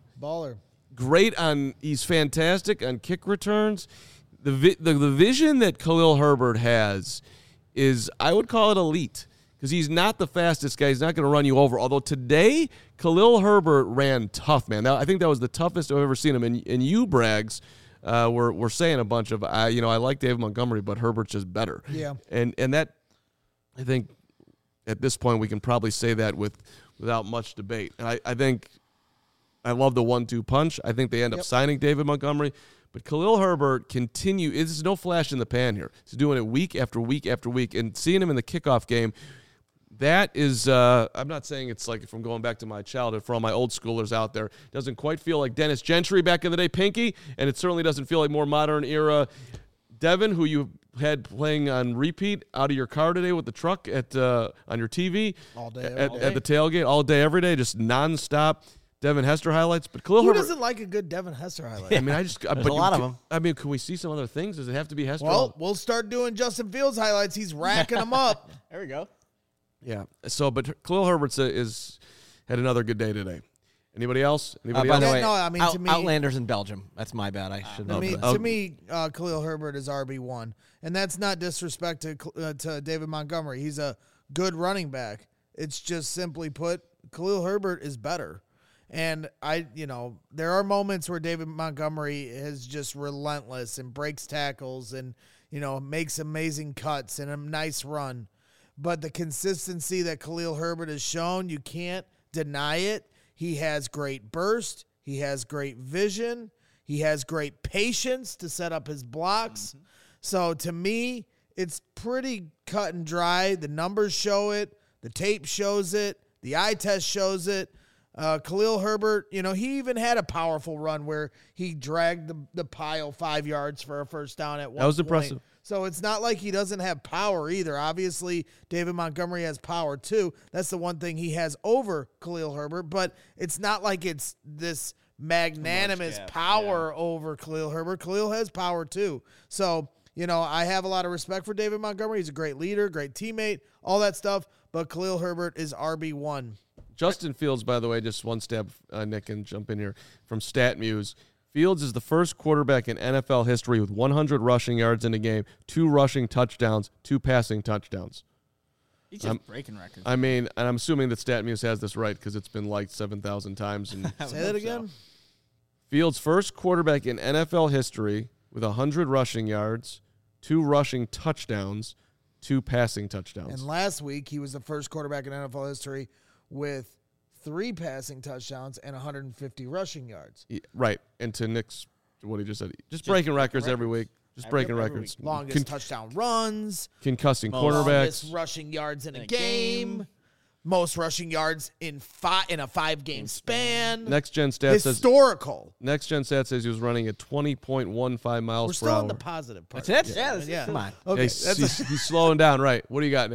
Great he's fantastic on kick returns. The vision that Khalil Herbert has is, I would call it elite, because he's not the fastest guy. He's not going to run you over. Although today, Khalil Herbert ran tough, man. I think that was the toughest I've ever seen him. And you, Braggs, were saying a bunch of, I like David Montgomery, but Herbert's just better. Yeah. And that, I think, at this point, we can probably say that without much debate. And I think I love the 1-2 punch. I think they end up signing David Montgomery. But Khalil Herbert there's no flash in the pan here. He's doing it week after week after week. And seeing him in the kickoff game, that is, I'm not saying it's like from going back to my childhood, for all my old schoolers out there, doesn't quite feel like Dennis Gentry back in the day, Pinky, and it certainly doesn't feel like more modern era Devin, who you had playing on repeat out of your car today with the truck on your TV. All day, at the tailgate, all day, every day, just nonstop. Devin Hester highlights, but Khalil Who Herbert. doesn't like a good Devin Hester highlight? I mean, There's a lot of them. I mean, can we see some other things? Does it have to be Hester? Well, we'll start doing Justin Fields highlights. He's racking them up. There we go. Yeah. So, but Khalil Herbert had another good day today. Anybody else? By Anybody the else? way, No, I mean, to me- Outlanders in Belgium. That's my bad. I should know that. To me, Khalil Herbert is RB1, and that's not disrespect to David Montgomery. He's a good running back. It's just simply put, Khalil Herbert is better. And there are moments where David Montgomery is just relentless and breaks tackles and, makes amazing cuts and a nice run. But the consistency that Khalil Herbert has shown, you can't deny it. He has great burst. He has great vision. He has great patience to set up his blocks. Mm-hmm. So to me, it's pretty cut and dry. The numbers show it. The tape shows it. The eye test shows it. Khalil Herbert, he even had a powerful run where he dragged the pile 5 yards for a first down at one point. That was impressive. So it's not like he doesn't have power either. Obviously, David Montgomery has power too. That's the one thing he has over Khalil Herbert, but it's not like it's this magnanimous power over Khalil Herbert. Khalil has power too. So, I have a lot of respect for David Montgomery. He's a great leader, great teammate, all that stuff, but Khalil Herbert is RB1. Justin Fields, by the way, just one step, Nick, can jump in here, from StatMuse. Fields is the first quarterback in NFL history with 100 rushing yards in a game, 2 rushing touchdowns, 2 passing touchdowns. He's just breaking records. I mean, and I'm assuming that StatMuse has this right because it's been liked 7,000 times. And Say that again? Fields, first quarterback in NFL history with 100 rushing yards, 2 rushing touchdowns, 2 passing touchdowns. And last week, he was the first quarterback in NFL history with 3 passing touchdowns and 150 rushing yards. Yeah, right. And to Nick's, what he just said, just breaking records every week. Just breaking records. Longest touchdown runs. Concussing quarterbacks. Longest rushing yards in a game. Most rushing yards in a 5-game span. Next Gen Stats Historical. Next Gen Stats says he was running at 20.15 miles We're per still hour. in the positive part. That's it? Yeah. Come on. Okay. He's slowing down, right? What do you got, Nick?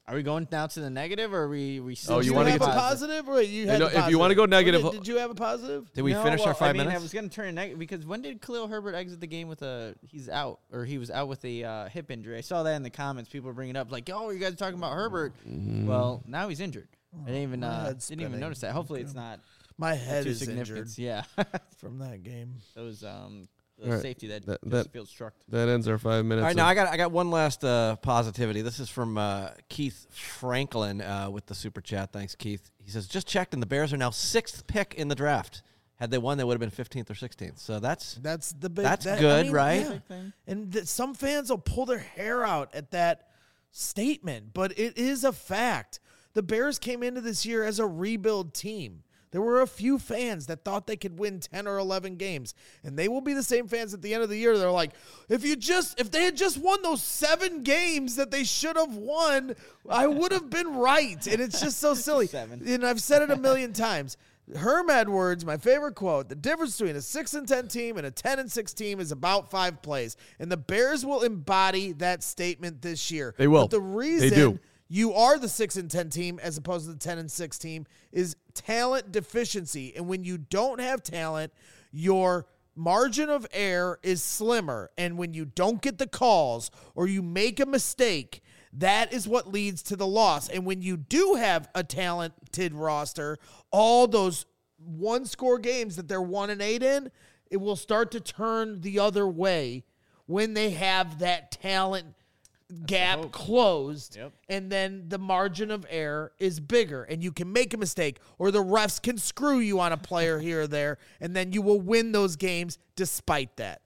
Are we going now to the negative, or are we still? Oh, Did you you wanna have get a to- positive? Or you had know, the if you wanna positive? go negative- Did you have a positive? Did we No, finish well, our 5 I mean, minutes? I was going to turn it negative because when did Khalil Herbert exit the game with he was out with a hip injury? I saw that in the comments. People were bringing it up like, "Oh, you guys are talking about Herbert." Well, now he's injured. I didn't even my head's didn't even spinning. notice that. Hopefully, it's not My head too is significant. injured Yeah, from that game. that was the All right. safety that That- Justin Fields struck. That ends our 5 minutes. All right, of- now I got one last positivity. This is from Keith Franklin with the super chat. Thanks, Keith. He says, just checked, and the Bears are now 6th pick in the draft. Had they won, they would have been 15th or 16th. So that's the big. That's good, right? yeah. Big thing. And some fans will pull their hair out at that statement, but it is a fact. The Bears came into this year as a rebuild team. There were a few fans that thought they could win 10 or 11 games, and they will be the same fans at the end of the year. They're like, if they had just won those 7 games that they should have won, I would have been right. And it's just so silly. 7. And I've said it a million times. Herm Edwards, my favorite quote, the difference between a 6-10 team and a 10-6 team is about 5 plays. And the Bears will embody that statement this year. They will. But the reason They do. you are the 6-10 team as opposed to the 10-6 team is talent deficiency. And when you don't have talent, your margin of error is slimmer. And when you don't get the calls or you make a mistake, that is what leads to the loss. And when you do have a talented roster, all those 1-score games that they're 1-8 in, it will start to turn the other way when they have that talent gap closed. Yep. And then the margin of error is bigger, and you can make a mistake, or the refs can screw you on a player here or there, and then you will win those games despite that.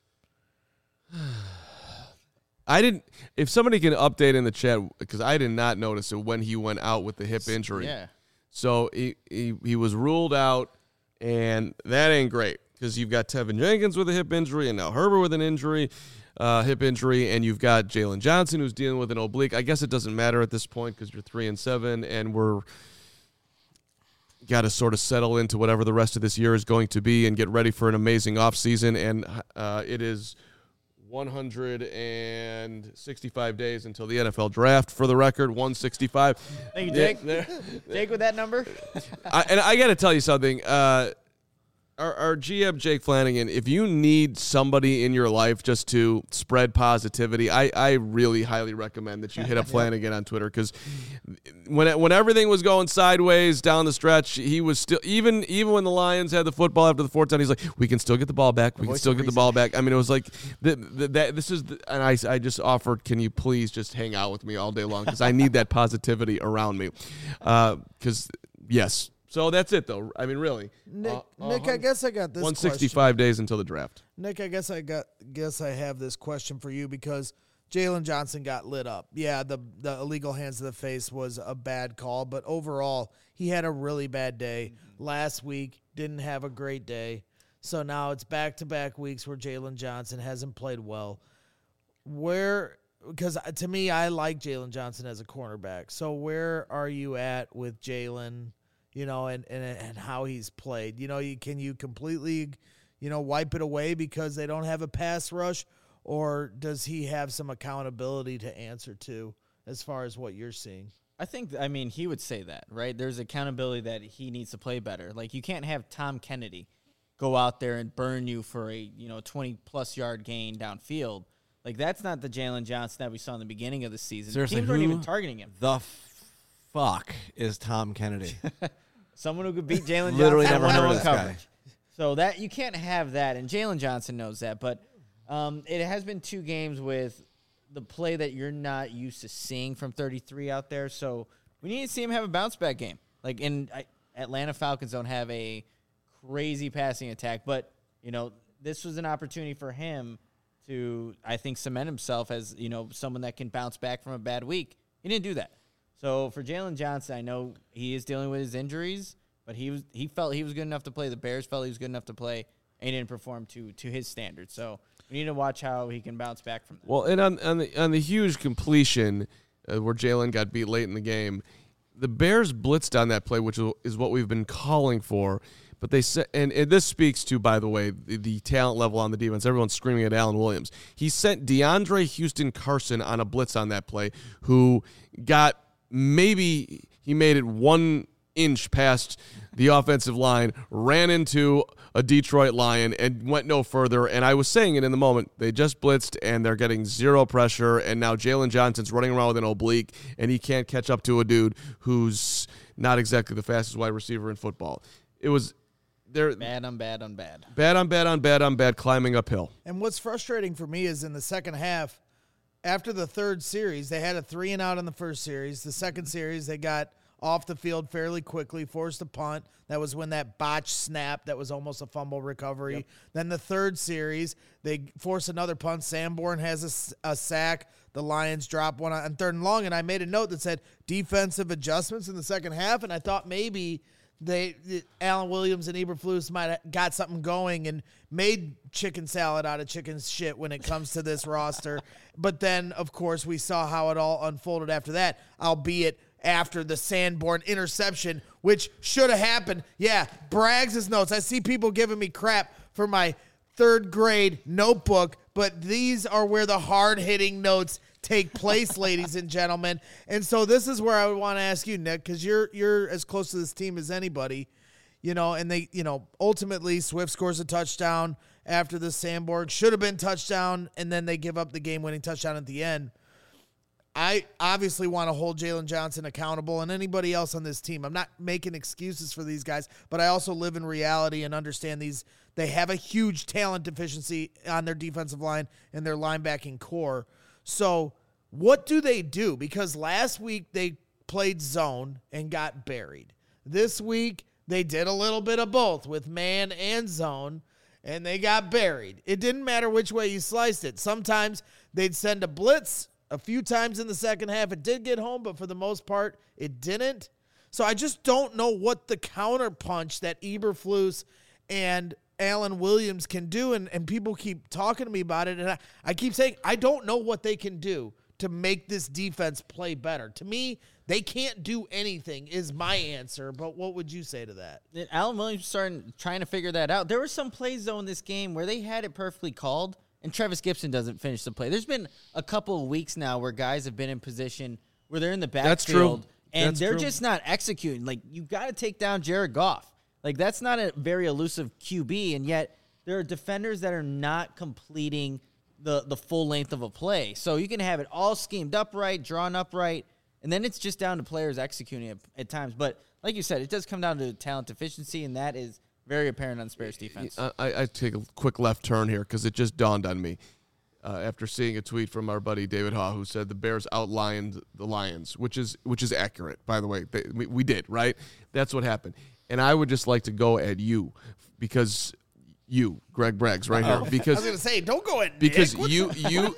If somebody can update in the chat, because I did not notice it when he went out with the hip injury. Yeah. So he was ruled out, and that ain't great because you've got Tevin Jenkins with a hip injury and now Herbert with an injury, hip injury, and you've got Jalen Johnson who's dealing with an oblique. I guess it doesn't matter at this point because you're 3-7, and we're got to sort of settle into whatever the rest of this year is going to be and get ready for an amazing offseason. And it is 165 days until the NFL draft, for the record, 165. Thank you, Jake. Jake with that number. And I got to tell you something. Our GM, Jake Flanagan, if you need somebody in your life just to spread positivity, I really highly recommend that you hit up Flanagan on Twitter, because when everything was going sideways down the stretch, he was still, even when the Lions had the football after the 4th down, he's like, we can still get the ball back. We can still get the ball back. I mean, it was like, and I just offered, can you please just hang out with me all day long, because I need that positivity around me. Because, yes. So that's it, though. I mean, really. Nick, I guess I got this 165 days until the draft. Nick, I guess I have this question for you because Jalen Johnson got lit up. Yeah, the illegal hands to the face was a bad call, but overall, he had a really bad day. Last week, didn't have a great day. So now it's back-to-back weeks where Jalen Johnson hasn't played well. Because to me, I like Jalen Johnson as a cornerback. So where are you at with Jalen? You know, and how he's played. You know, can you completely, wipe it away because they don't have a pass rush, or does he have some accountability to answer to as far as what you're seeing? I think, he would say that, right? There's accountability that he needs to play better. Like, you can't have Tom Kennedy go out there and burn you for a, 20-plus yard gain downfield. Like, that's not the Jalen Johnson that we saw in the beginning of the season. Seriously, teams weren't who even targeting him. the fuck is Tom Kennedy? Someone who could beat Jalen Johnson. Literally never heard of one-on-one this guy. coverage. So that you can't have that, and Jalen Johnson knows that. But it has been 2 games with the play that you're not used to seeing from 33 out there. So we need to see him have a bounce back game. Like, Atlanta Falcons don't have a crazy passing attack, but this was an opportunity for him to, I think, cement himself as someone that can bounce back from a bad week. He didn't do that. So for Jalen Johnson, I know he is dealing with his injuries, but he felt he was good enough to play. The Bears felt he was good enough to play, and he didn't perform to his standards. So we need to watch how he can bounce back from that. Well, and on the huge completion where Jalen got beat late in the game, the Bears blitzed on that play, which is what we've been calling for. But they said, and this speaks to, by the way, the talent level on the defense. Everyone's screaming at Allen Williams. He sent DeAndre Houston Carson on a blitz on that play, who got maybe he made it 1 inch past the offensive line, ran into a Detroit Lion, and went no further. And I was saying it in the moment. They just blitzed, and they're getting zero pressure, and now Jalen Johnson's running around with an oblique, and he can't catch up to a dude who's not exactly the fastest wide receiver in football. It was there. Bad on bad on bad. Bad on bad on bad on bad, climbing uphill. And what's frustrating for me is in the second half, after the third series, they had a 3-and-out in the first series. The second series, they got off the field fairly quickly, forced a punt. That was when that botched snap that was almost a fumble recovery. Yep. Then the third series, they force another punt. Sanborn has a sack. The Lions drop one on 3rd and long, and I made a note that said defensive adjustments in the second half, and I thought maybe Alan Williams and Eberflus might have got something going and made chicken salad out of chicken shit when it comes to this roster. But then, of course, we saw how it all unfolded after that, albeit after the Sanborn interception, which should have happened. Yeah, Braggs' notes. I see people giving me crap for my 3rd grade notebook, but these are where the hard-hitting notes take place, ladies and gentlemen. And so this is where I would want to ask you, Nick, because you're as close to this team as anybody, and they, ultimately Swift scores a touchdown after the Sanborn. Should have been touchdown, and then they give up the game-winning touchdown at the end. I obviously want to hold Jalen Johnson accountable and anybody else on this team. I'm not making excuses for these guys, but I also live in reality and understand they have a huge talent deficiency on their defensive line and their linebacking core. So what do they do? Because last week they played zone and got buried. This week they did a little bit of both with man and zone, and they got buried. It didn't matter which way you sliced it. Sometimes they'd send a blitz. A few times in the second half, it did get home, but for the most part, it didn't. So I just don't know what the counterpunch that Eberflus and Alan Williams can do, and people keep talking to me about it, and I keep saying, I don't know what they can do to make this defense play better. To me, they can't do anything is my answer, but what would you say to that? Alan Williams started trying to figure that out. There were some plays, though, in this game where they had it perfectly called, and Travis Gibson doesn't finish the play. There's been a couple of weeks now where guys have been in position where they're in the backfield. That's true. And they're just not executing. Like, you got to take down Jared Goff. Like, that's not a very elusive QB, and yet there are defenders that are not completing the full length of a play. So you can have it all schemed up right, drawn up right, and then it's just down to players executing it at times. But like you said, it does come down to talent deficiency, and that is very apparent on the Bears defense. I take a quick left turn here because it just dawned on me after seeing a tweet from our buddy David Haw, who said the Bears outlined the Lions, which is accurate, by the way. We did, right? That's what happened. And I would just like to go at you because you, Greg Braggs, right here. Because I was going to say, don't go at Nick. Because What you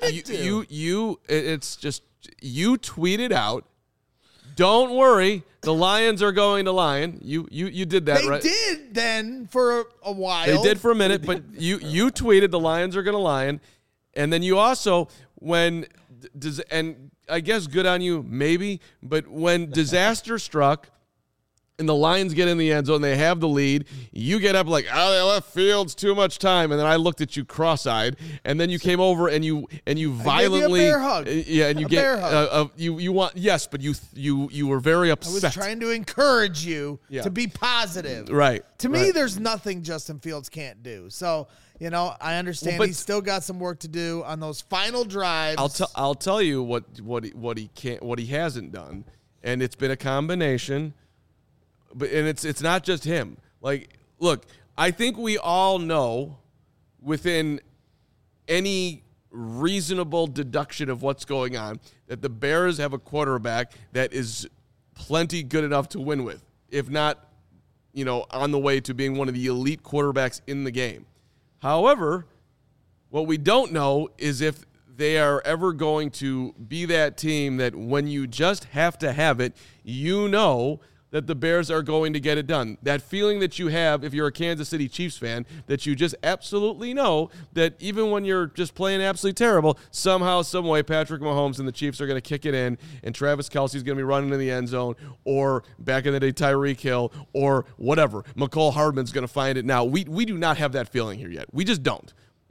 tweeted out, don't worry, the Lions are going to Lion. You did that, right? They did then for a while. They did for a minute, but you tweeted the Lions are going to Lion. And then you also, and I guess good on you, maybe, but when disaster struck and the Lions get in the end zone, they have the lead, you get up like, oh, they left Fields too much time. And then I looked at you cross-eyed, and then you came over and you violently, I gave you a bear hug. Yeah, and you you want, yes, but you were very upset. I was trying to encourage you to be positive. Right. To me, there's nothing Justin Fields can't do. So, I understand he's still got some work to do on those final drives. I'll tell you what he hasn't done, and it's been a combination. And it's not just him. Like, look, I think we all know within any reasonable deduction of what's going on that the Bears have a quarterback that is plenty good enough to win with, if not, on the way to being one of the elite quarterbacks in the game. However, what we don't know is if they are ever going to be that team that when you just have to have it, that the Bears are going to get it done. That feeling that you have if you're a Kansas City Chiefs fan, that you just absolutely know that even when you're just playing absolutely terrible, somehow, some way, Patrick Mahomes and the Chiefs are going to kick it in, and Travis Kelce's going to be running in the end zone, or back in the day, Tyreek Hill, or whatever. McCole Hardman's going to find it now. We do not have that feeling here yet. We just don't.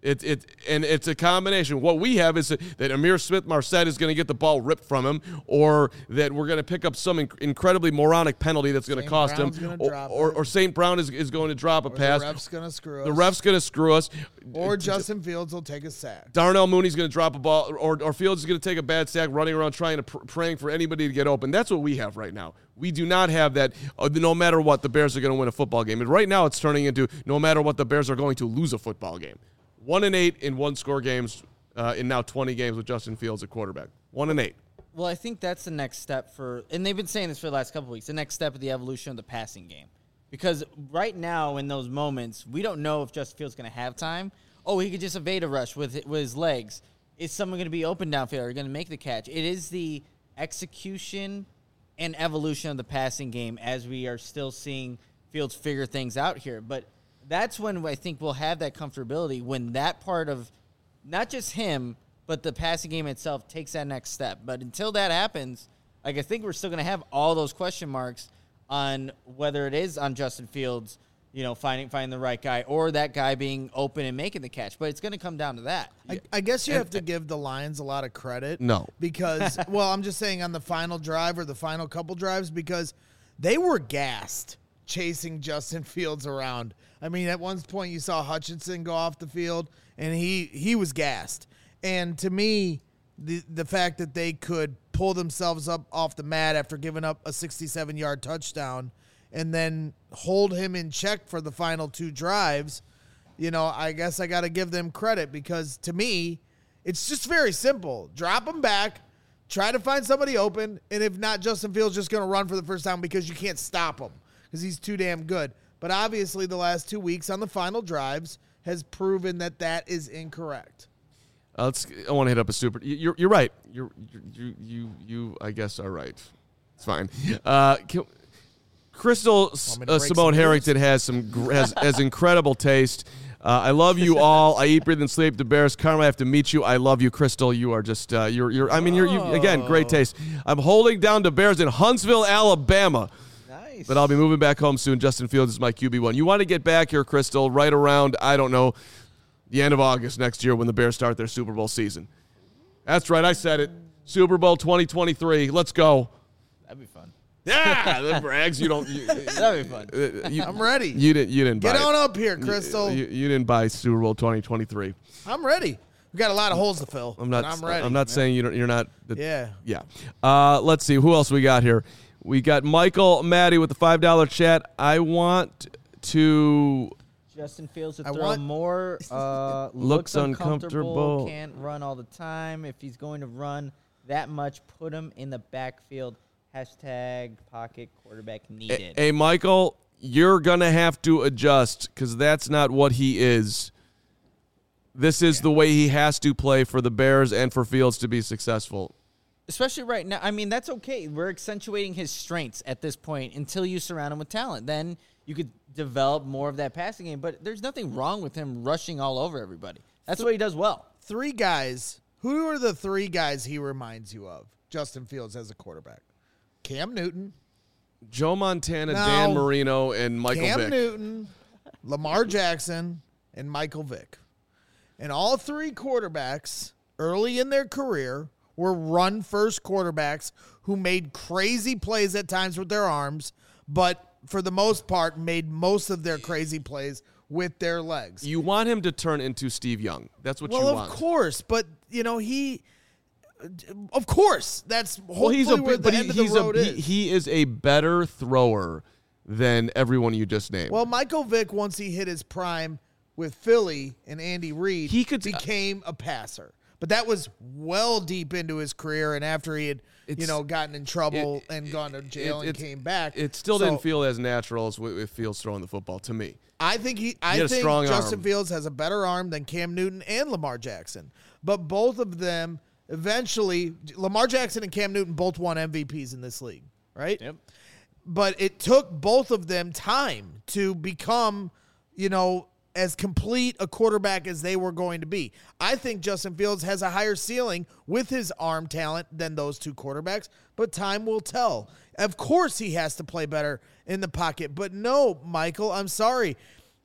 It's a combination. What we have is that Amir Smith-Marset is going to get the ball ripped from him, or that we're going to pick up some incredibly moronic penalty that's going to cost Brown's him, gonna or St. Brown is going to drop a pass. The ref's going to screw us. The ref's going to screw us. Or Justin Fields will take a sack. Darnell Mooney's going to drop a ball, or Fields is going to take a bad sack, running around trying to praying for anybody to get open. That's what we have right now. We do not have that. No matter what, the Bears are going to win a football game. And right now, it's turning into no matter what, the Bears are going to lose a football game. 1-8 in one-score games in now 20 games with Justin Fields at quarterback. 1-8. Well, I think that's the next step and they've been saying this for the last couple of weeks, the next step of the evolution of the passing game. Because right now, in those moments, we don't know if Justin Fields is going to have time. Oh, he could just evade a rush with his legs. Is someone going to be open downfield? Are you going to make the catch? It is the execution and evolution of the passing game as we are still seeing Fields figure things out here. But that's when I think we'll have that comfortability, when that part of not just him, but the passing game itself takes that next step. But until that happens, I think we're still going to have all those question marks on whether it is on Justin Fields, finding the right guy, or that guy being open and making the catch. But it's going to come down to that. I guess you have to give the Lions a lot of credit. No. Because, I'm just saying on the final drive or the final couple drives, because they were gassed chasing Justin Fields around. I mean, at one point you saw Hutchinson go off the field, and he was gassed. And to me, the fact that they could pull themselves up off the mat after giving up a 67-yard touchdown and then hold him in check for the final two drives, I guess I got to give them credit, because to me, it's just very simple. Drop him back, try to find somebody open, and if not, Justin Fields just going to run for the first down because you can't stop him because he's too damn good. But obviously the last 2 weeks on the final drives has proven that is incorrect. I want to hit up a super. You're right. You I guess are right. It's fine. Crystal Simone Harrington has incredible taste. I love you all. I eat, breathe, and sleep the Bears. Carmen, I have to meet you. I love you, Crystal. You are just you're again, great taste. I'm holding down the Bears in Huntsville, Alabama. Nice. But I'll be moving back home soon. Justin Fields is my QB1. You want to get back here, Crystal, right around, I don't know, the end of August next year when the Bears start their Super Bowl season. That's right. I said it. Super Bowl 2023. Let's go. That'd be fun. Yeah, the brags. You don't. That'd be fun. I'm ready. You didn't buy Get it. on up here, Crystal. You didn't buy Super Bowl 2023. I'm ready. We got a lot of holes to fill. I'm ready. I'm not saying you're not. Yeah. Let's see who else we got here. We got Michael Maddie with the $5 chat. I want to. Justin Fields to throw more. Looks uncomfortable. Can't run all the time. If he's going to run that much, put him in the backfield. Hashtag pocket quarterback needed. Hey, Michael, you're going to have to adjust because that's not what he is. This is the way he has to play for the Bears and for Fields to be successful. Especially right now. I mean, that's okay. We're accentuating his strengths at this point until you surround him with talent. Then you could develop more of that passing game. But there's nothing wrong with him rushing all over everybody. That's what he does well. Three guys. Who are the three guys he reminds you of, Justin Fields, as a quarterback? Cam Newton. Joe Montana, Dan Marino, and Michael Vick. Cam Newton, Lamar Jackson, and Michael Vick. And all three quarterbacks early in their career were run-first quarterbacks who made crazy plays at times with their arms, but for the most part made most of their crazy plays with their legs. You want him to turn into Steve Young. That's what you want. Well, of course, but, of course, that's hopefully where the end of the road is. He is a better thrower than everyone you just named. Well, Michael Vick, once he hit his prime with Philly and Andy Reid, became a passer. But that was well deep into his career, and after he had, gotten in trouble and gone to jail and came back. It still didn't feel as natural as it feels throwing the football to me. I think Justin Fields has a better arm than Cam Newton and Lamar Jackson. But both of them eventually, Lamar Jackson and Cam Newton both won MVPs in this league, right? Yep. But it took both of them time to become, as complete a quarterback as they were going to be. I think Justin Fields has a higher ceiling with his arm talent than those two quarterbacks, but time will tell. Of course he has to play better in the pocket, but no, Michael, I'm sorry.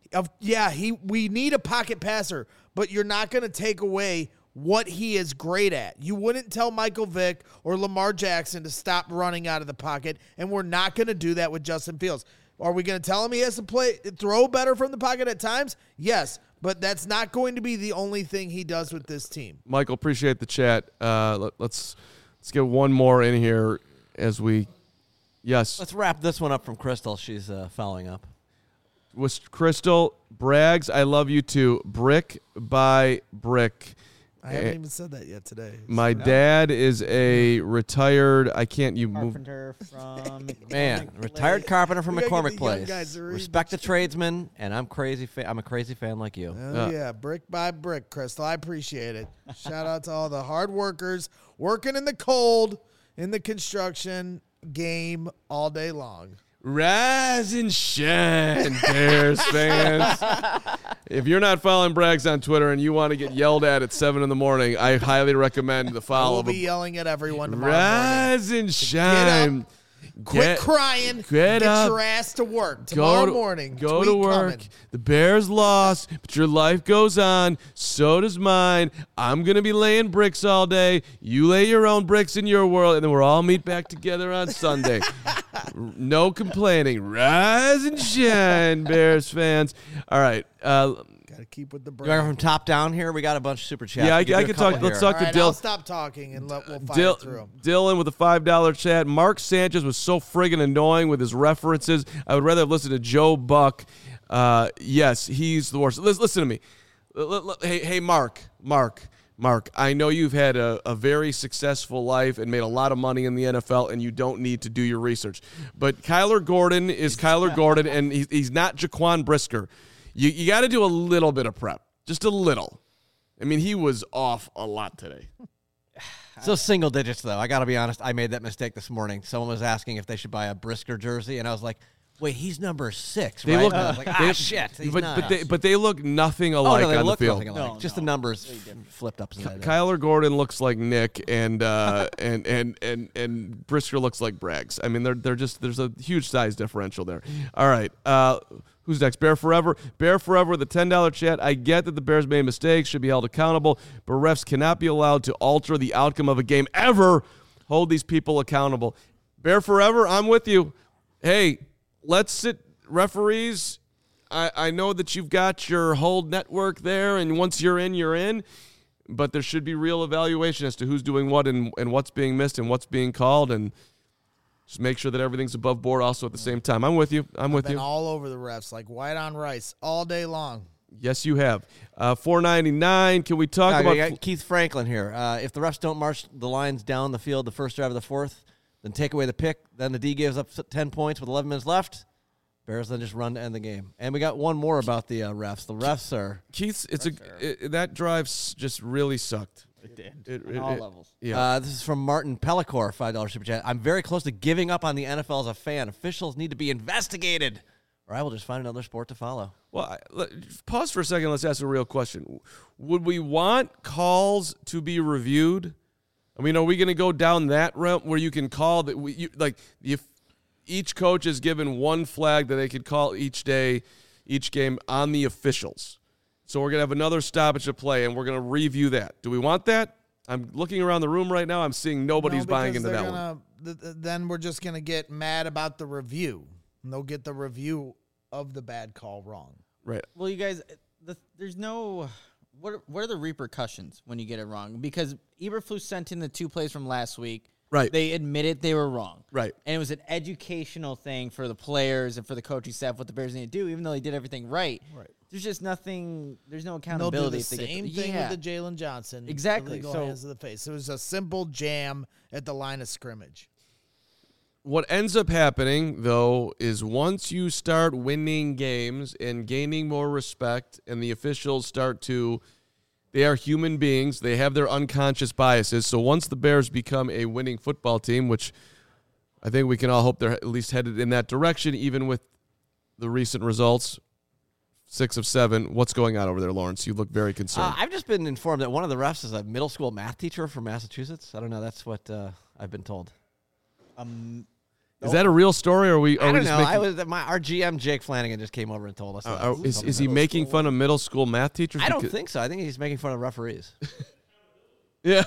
We need a pocket passer, but you're not going to take away what he is great at. You wouldn't tell Michael Vick or Lamar Jackson to stop running out of the pocket, and we're not going to do that with Justin Fields. Are we going to tell him he has to throw better from the pocket at times? Yes, but that's not going to be the only thing he does with this team. Michael, appreciate the chat. Let's get one more in here as we. Yes. Let's wrap this one up from Crystal. She's following up. With Crystal, Braggs, I love you too. Brick by brick. I haven't even said that yet today. My dad is a retired. Carpenter from retired carpenter from We gotta get McCormick the young Place. guys to read Respect the tradesman, and I'm crazy. I'm a crazy fan like you. Oh, yeah, brick by brick, Crystal. I appreciate it. Shout out to all the hard workers working in the cold, in the construction game all day long. Rise and shine, Bears fans. If you're not following Braggs on Twitter and you want to get yelled at 7 in the morning, I highly recommend the follow. We'll be yelling at everyone tomorrow morning. Rise and shine. Quit crying. Get up. Your ass to work tomorrow morning. Go Tweet to work. coming. The Bears lost, but your life goes on. So does mine. I'm going to be laying bricks all day. You lay your own bricks in your world, and then we'll all meet back together on Sunday. No complaining. Rise and shine, Bears fans. All right. Gotta keep with the You want brand. from top down here? We got a bunch of super chats. Yeah, I Give you a can couple talk. Let's here. talk All to right, Dill. I'll stop talking and we'll fire through 'em. Dylan with a $5 chat. Mark Sanchez was so friggin' annoying with his references. I would rather have listened to Joe Buck. Yes, he's the worst. Listen to me. Hey, Mark. I know you've had a very successful life and made a lot of money in the NFL, and you don't need to do your research. But Kyler Gordon is Kyler Gordon, and he's not Jaquan Brisker. You got to do a little bit of prep, just a little. I mean, he was off a lot today. Still single digits, though. I got to be honest. I made that mistake this morning. Someone was asking if they should buy a Brisker jersey, and I was like, wait, he's number 6, They right? look- And I was like, shit. He's not. But they look nothing Oh, alike no, they on the look field. nothing alike. No, Just no. the numbers flipped up. Kyler Gordon looks like Nick, and and Brisker looks like Braggs. I mean, they're just there's a huge size differential there. All right, who's next? Bear Forever. Bear Forever with a $10 chat. I get that the Bears made mistakes, should be held accountable, but refs cannot be allowed to alter the outcome of a game ever. Hold these people accountable. Bear Forever, I'm with you. Hey, let's sit. Referees, I know that you've got your whole network there, and once you're in, but there should be real evaluation as to who's doing what and what's being missed and what's being called, and just make sure that everything's above board also at the same time. I'm with you. Been all over the refs like white on rice all day long. Yes, you have. $4.99. Can we talk we about got Keith Franklin here. If the refs don't march the Lions down the field the first drive of the fourth, then take away the pick, then the D gives up 10 points with 11 minutes left. Bears then just run to end the game. And we got one more about the refs. The refs are... Keith's? That drive just really sucked. It did. On all levels. Yeah. This is from Martin Pellicor, $5 super chat. I'm very close to giving up on the NFL as a fan. Officials need to be investigated, or I will just find another sport to follow. Well, pause for a second. Let's ask a real question. Would we want calls to be reviewed? I mean, are we going to go down that route where you can call that? If each coach is given one flag that they could call each day, each game on the officials. So we're going to have another stoppage of play, and we're going to review that. Do we want that? I'm looking around the room right now. I'm seeing nobody's buying into that one. Then we're just going to get mad about the review. And they'll get the review of the bad call wrong. Right. Well, you guys, there's no. What are the repercussions when you get it wrong? Because Eberflus sent in the 2 plays from last week. Right. They admitted they were wrong. Right. And it was an educational thing for the players and for the coaching staff what the Bears need to do, even though they did everything right. Right. There's just nothing. There's no They'll accountability. do the if they same get thing yeah. with the Jalen Johnson. Exactly. Illegal So- hands to the face. It was a simple jam at the line of scrimmage. What ends up happening, though, is once you start winning games and gaining more respect and the officials start to – they are human beings. They have their unconscious biases. So once the Bears become a winning football team, which I think we can all hope they're at least headed in that direction, even with the recent results, 6 of 7. What's going on over there, Lawrence? You look very concerned. I've just been informed that one of the refs is a middle school math teacher from Massachusetts. I don't know. That's what I've been told. Is that a real story, or are we? I don't just know. making, Our GM Jake Flanagan just came over and told us. That is he making fun of middle school math teachers? I don't think so. I think he's making fun of referees. Yeah.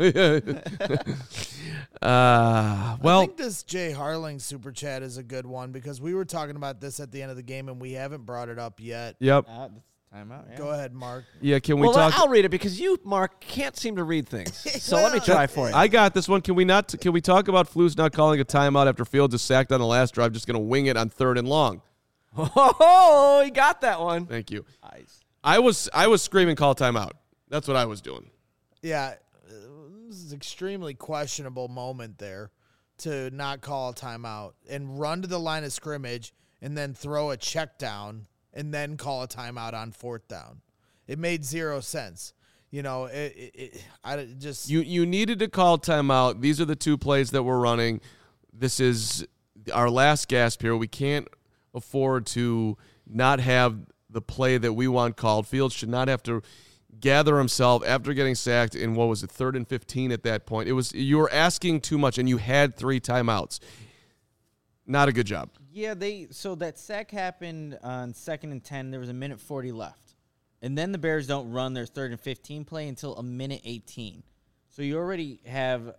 Well, I think this Jay Harling super chat is a good one because we were talking about this at the end of the game and we haven't brought it up yet. yep. That's timeout. Yeah. Go ahead, Mark. Yeah. Can we Well, talk? I'll read it because you, Mark, can't seem to read things. So let me try for you. I got this one. Can we not? Can we talk about Flus not calling a timeout after Fields is sacked on the last drive? Just going to wing it on 3rd and long. Oh, he got that one. Thank you. Nice. I was screaming call timeout. That's what I was doing. Yeah, this is an extremely questionable moment there to not call a timeout and run to the line of scrimmage and then throw a check down and then call a timeout on 4th down. It made zero sense. You know, I just You needed to call timeout. These are the 2 plays that we're running. This is our last gasp here. We can't afford to not have the play that we want called. Fields should not have to gather himself after getting sacked in, what was it, 3rd and 15 at that point. You were asking too much, and you had 3 timeouts. Not a good job. Yeah, so that sack happened on 2nd and 10. There was a minute 40 left. And then the Bears don't run their 3rd and 15 play until a minute 18. So you already have,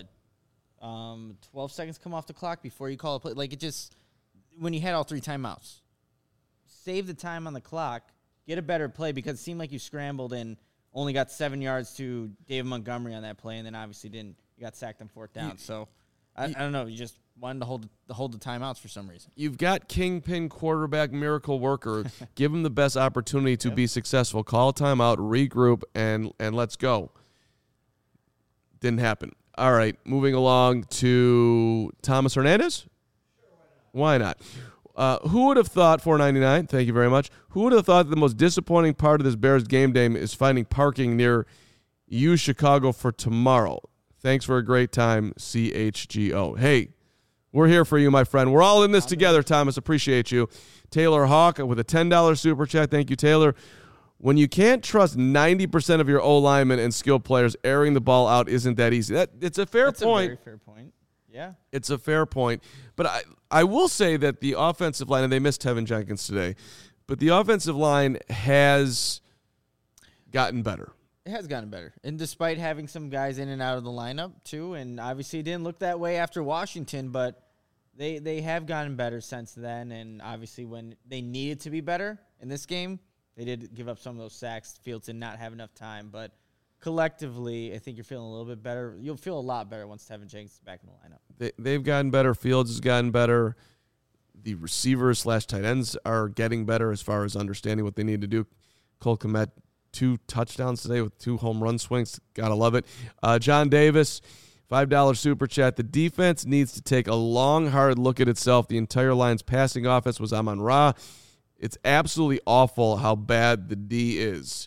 12 seconds come off the clock before you call a play. Like, it just, when you had all 3 timeouts, save the time on the clock, get a better play, because it seemed like you scrambled and only got 7 yards to David Montgomery on that play, and then obviously didn't. You got sacked on 4th down. So I don't know. You just wanted to hold the timeouts for some reason. You've got kingpin quarterback miracle worker. Give him the best opportunity to be successful. Call a timeout, regroup, and let's go. Didn't happen. All right, moving along to Thomas Hernandez. Why not? Who would have thought, $4.99, thank you very much, who would have thought that the most disappointing part of this Bears game day is finding parking near U Chicago for tomorrow? Thanks for a great time, CHGO. Hey, we're here for you, my friend. We're all in this together, Thomas. Appreciate you. Taylor Hawk with a $10 super chat. Thank you, Taylor. When you can't trust 90% of your O-linemen and skilled players, airing the ball out isn't that easy. It's a fair That's point. a very fair point. Yeah. It's a fair point. But I will say that the offensive line, and they missed Tevin Jenkins today, but the offensive line has gotten better. It has gotten better. And despite having some guys in and out of the lineup, too, and obviously it didn't look that way after Washington, but they have gotten better since then. And obviously when they needed to be better in this game, they did give up some of those sacks. Fields did not have enough time. But collectively, I think you're feeling a little bit better. You'll feel a lot better once Tevin Jenkins is back in the lineup. They've gotten better. Fields has gotten better. The receivers / tight ends are getting better as far as understanding what they need to do. Cole Kmet, 2 touchdowns today with 2 home run swings. Gotta love it. John Davis, $5 super chat. The defense needs to take a long, hard look at itself. The entire Lions passing offense was Amon-Ra. It's absolutely awful how bad the D is.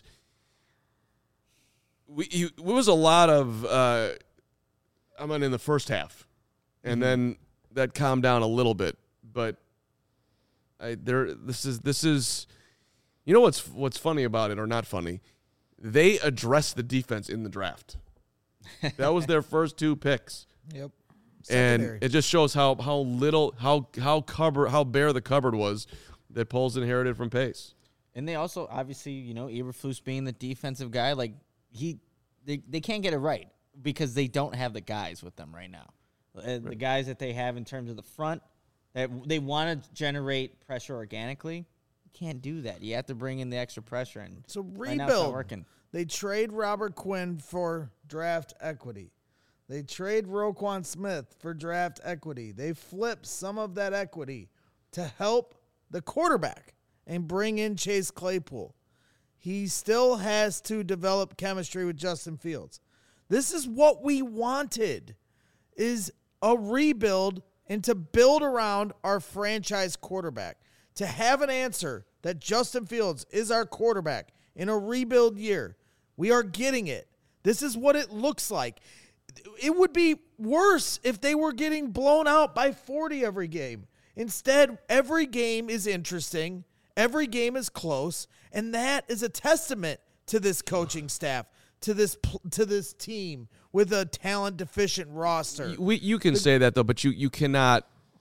It was a lot of in the first half, and then that calmed down a little bit. But this is you know what's funny about it, or not funny? They addressed the defense in the draft. That was their first 2 picks. Yep. And it just shows how bare the cupboard was that Poles inherited from Pace. And they also, obviously, Eberflus being the defensive guy, like they can't get it right because they don't have the guys with them right now. Right. The guys that they have in terms of the front, that they want to generate pressure organically. You can't do that. You have to bring in the extra pressure. And so right rebuild. now it's not working. They trade Robert Quinn for draft equity. They trade Roquan Smith for draft equity. They flip some of that equity to help the quarterback and bring in Chase Claypool. He still has to develop chemistry with Justin Fields. This is what we wanted, is a rebuild and to build around our franchise quarterback. To have an answer that Justin Fields is our quarterback in a rebuild year. We are getting it. This is what it looks like. It would be worse if they were getting blown out by 40 every game. Instead, every game is interesting. Every game is close. And that is a testament to this coaching staff, to this team with a talent-deficient roster. You can say that, though, but you cannot,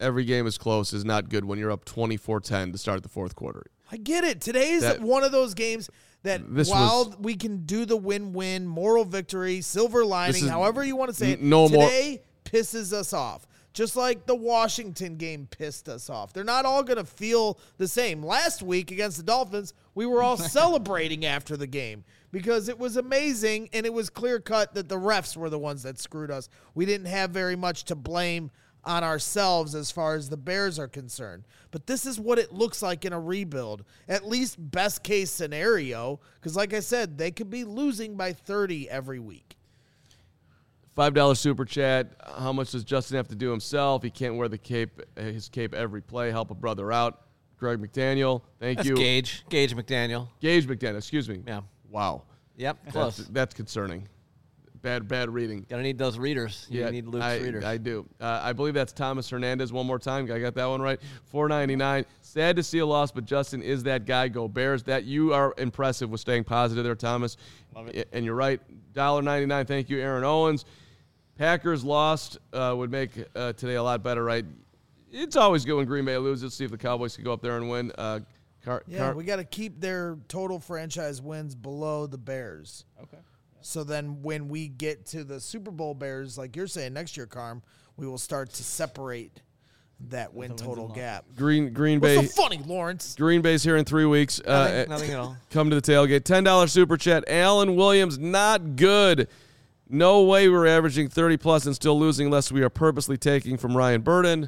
every game is close is not good when you're up 24-10 to start the fourth quarter. I get it. Today is That- one of those games that This while was- we can do the win-win, moral victory, silver lining, is however you want to say it, no more- today pisses us off. Just like the Washington game pissed us off. They're not all going to feel the same. Last week against the Dolphins, we were all celebrating after the game because it was amazing and it was clear-cut that the refs were the ones that screwed us. We didn't have very much to blame on ourselves as far as the Bears are concerned. But this is what it looks like in a rebuild, at least best case scenario, because like I said, they could be losing by 30 every week. $5 super chat. How much does Justin have to do himself? He can't wear the cape, his cape every play. Help a brother out. Greg McDaniel, thank That's you. Gage McDaniel. Gage McDaniel, excuse me. Yeah. Wow. Yep, close. That's concerning. Bad reading. Gotta need those readers. You need Luke's readers. I do. I believe that's Thomas Hernandez one more time. I got that one right. $4.99. Sad to see a loss, but Justin is that guy. Go Bears. That you are impressive with staying positive there, Thomas. Love it. And you're right. $1.99. Thank you, Aaron Owens. Packers lost would make today a lot better, right? It's always good when Green Bay loses. Let's see if the Cowboys can go up there and win. We got to keep their total franchise wins below the Bears. Okay. So then when we get to the Super Bowl Bears, like you're saying next year, Carm, we will start to separate that win total gap. Green Bay. What's so funny, Lawrence? Green Bay's here in 3 weeks. Nothing at all. Come to the tailgate. $10 super chat. Alan Williams, not good. No way we're averaging 30-plus and still losing unless we are purposely taking from Ryan Burden.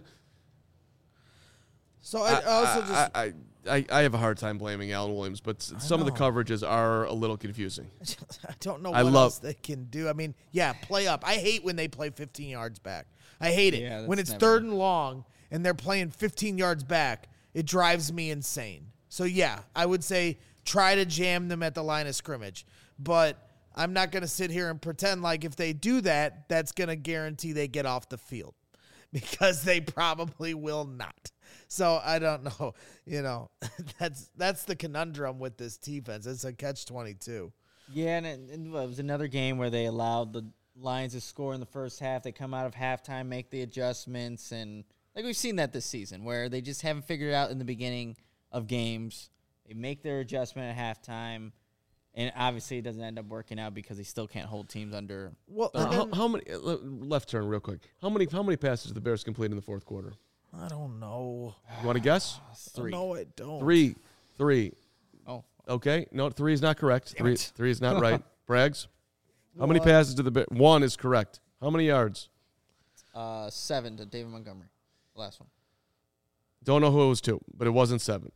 So I also just I have a hard time blaming Alan Williams, but some of the coverages are a little confusing. I don't know I what love- else they can do. I mean, yeah, play up. I hate when they play 15 yards back. I hate it. Yeah, When that's it's never- 3rd and long and they're playing 15 yards back, it drives me insane. So, yeah, I would say try to jam them at the line of scrimmage. But I'm not going to sit here and pretend like if they do that, that's going to guarantee they get off the field because they probably will not. So I don't know. You know, that's the conundrum with this defense. It's a catch-22. Yeah, and it was another game where they allowed the Lions to score in the first half. They come out of halftime, make the adjustments, and like we've seen that this season, where they just haven't figured it out in the beginning of games. They make their adjustment at halftime, and obviously it doesn't end up working out because they still can't hold teams under. Well, and then- How many left turn real quick? How many passes did the Bears complete in the fourth quarter? I don't know. You want to guess? 3. No, I don't. Three. Oh, Okay. No, 3 is not correct. Damn it. Three is not right. Braggs. How many passes did the Bears? 1 is correct. How many yards? 7 to David Montgomery. The last one. Don't know who it was to, but it wasn't 7.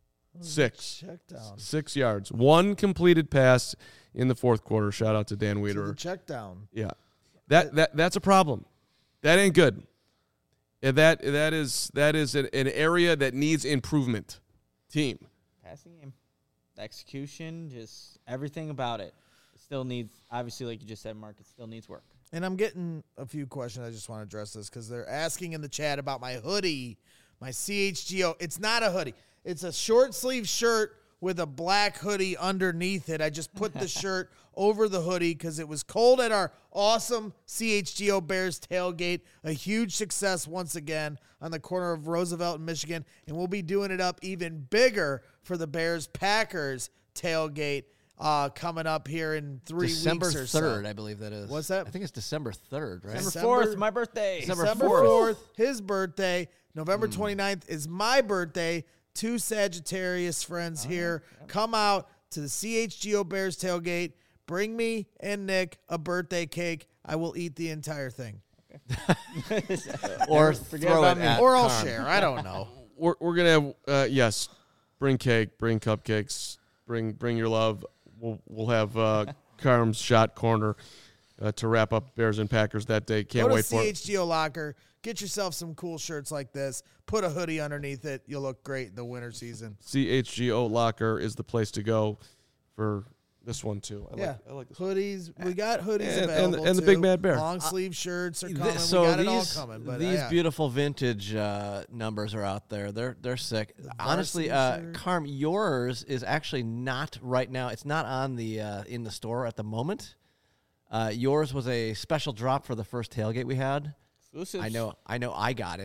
6. Check down. 6 yards. 1 completed pass in the fourth quarter. Shout out to Dan To the Wiederer. check down. Yeah. That's a problem. That ain't good. And that is an area that needs improvement. Team. Passing game. The execution, just everything about it. It still needs, obviously, like you just said, Mark, it still needs work. And I'm getting a few questions. I just want to address this because they're asking in the chat about my hoodie, my CHGO. It's not a hoodie. It's a short sleeve shirt with a black hoodie underneath it. I just put the shirt over the hoodie because it was cold at our awesome CHGO Bears tailgate. A huge success once again on the corner of Roosevelt and Michigan. And we'll be doing it up even bigger for the Bears-Packers tailgate coming up here in 3 December weeks or 3rd, so. I believe that is. What's that? I think it's December 3rd, right? December 4th, my birthday. December December 4th. 4th, his birthday. November 29th is my birthday. 2 Sagittarius friends here. Come out to the CHGO Bears tailgate. Bring me and Nick a birthday cake. I will eat the entire thing. Or Forget throw about it me. at Or I'll Carm. share. I don't know. We're gonna have yes. Bring cake. Bring cupcakes. Bring your love. We'll have Carm's shot corner to wrap up Bears and Packers that day. Can't Go to wait for it. CHGO Locker. Get yourself some cool shirts like this. Put a hoodie underneath it. You'll look great in the winter season. CHGO Locker is the place to go for this one too. I like this one. Hoodies. We got hoodies And- available and the too. Big Mad Bear. Long sleeve shirts are coming. So we got it all these coming. But these yeah. beautiful vintage numbers are out there. They're sick. Honestly, varsity shirt. Carm, yours is actually not right now. It's not on the in the store at the moment. Yours was a special drop for the first tailgate we had. Exclusives. I know. I got it,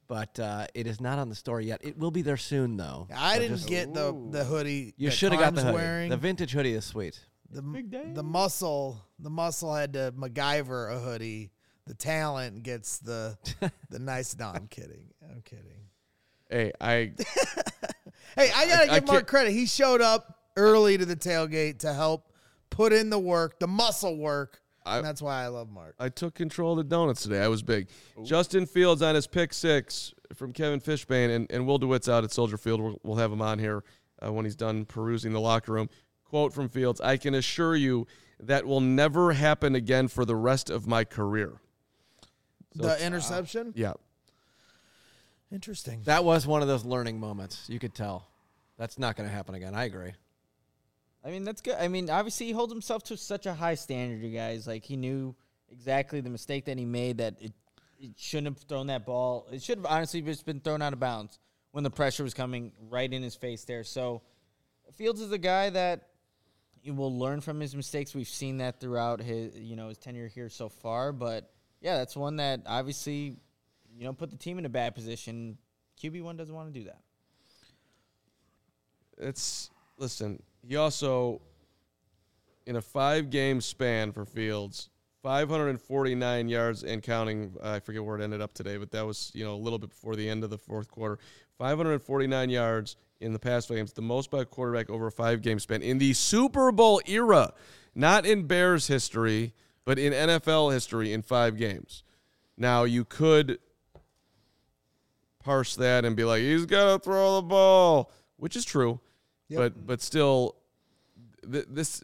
but it is not on the store yet. It will be there soon, though. I So didn't just- get the hoodie. You that should have got the Carm's hoodie. Wearing. The vintage hoodie is sweet. The muscle had to MacGyver a hoodie. The talent gets the nice. No, I'm kidding. Hey, Hey, I gotta I give Mark can't- credit. He showed up early to the tailgate to help put in the work, the muscle work, and that's why I love Mark. I took control of the donuts today. I was big. Justin Fields on his pick 6 from Kevin Fishbane, and Will DeWitt's out at Soldier Field. We'll have him on here when he's done perusing the locker room. Quote from Fields, "I can assure you that will never happen again for the rest of my career." So The interception? Yeah. Interesting. That was one of those learning moments. You could tell. That's not going to happen again. I agree. I mean, that's good. I mean, obviously, he holds himself to such a high standard, you guys. Like, he knew exactly the mistake that he made, that it shouldn't have thrown that ball. It should have honestly just been thrown out of bounds when the pressure was coming right in his face there. So, Fields is a guy that he will learn from his mistakes. We've seen that throughout his tenure here so far. But, yeah, that's one that obviously, put the team in a bad position. QB1 doesn't want to do that. Listen, he also, in a 5-game span for Fields, 549 yards and counting. I forget where it ended up today, but that was, a little bit before the end of the fourth quarter. 549 yards in the past 5 games, the most by a quarterback over a 5-game span in the Super Bowl era, not in Bears history, but in NFL history in 5 games. Now, you could parse that and be like, he's got to throw the ball, which is true. Yep. But still, it's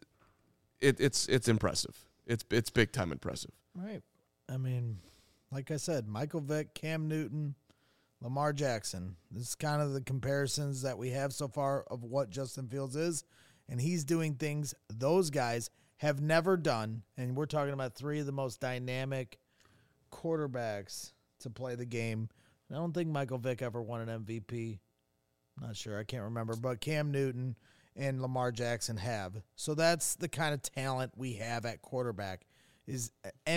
impressive. It's big time impressive. Right. I mean, like I said, Michael Vick, Cam Newton, Lamar Jackson. This is kind of the comparisons that we have so far of what Justin Fields is, and he's doing things those guys have never done. And we're talking about 3 of the most dynamic quarterbacks to play the game. I don't think Michael Vick ever won an MVP. Not sure. I can't remember. But Cam Newton and Lamar Jackson have. So that's the kind of talent we have at quarterback is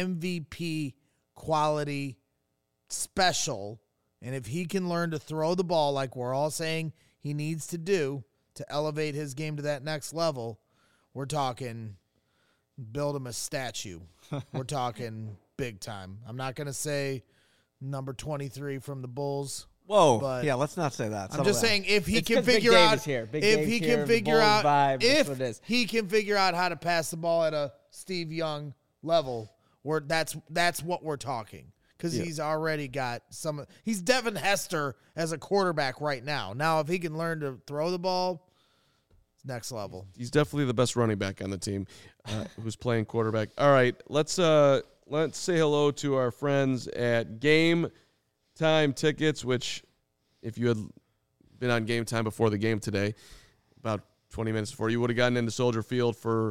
MVP quality special. And if he can learn to throw the ball like we're all saying he needs to do to elevate his game to that next level, we're talking build him a statue. We're talking big time. I'm not going to say number 23 from the Bulls. Whoa. But yeah, let's not say that. I'm just saying if he It's can 'cause Big figure Dave out is here. Big if Dave's he here, can the figure Bulls out vibe, that's if what it is. he can figure out how to pass the ball at a Steve Young level, that's what we're talking. Because he's already got he's Devin Hester as a quarterback right now. Now if he can learn to throw the ball, it's next level. He's definitely the best running back on the team who's playing quarterback. All right, let's say hello to our friends at Game Time Tickets, which if you had been on Game Time before the game today, about 20 minutes before, you would have gotten into Soldier Field for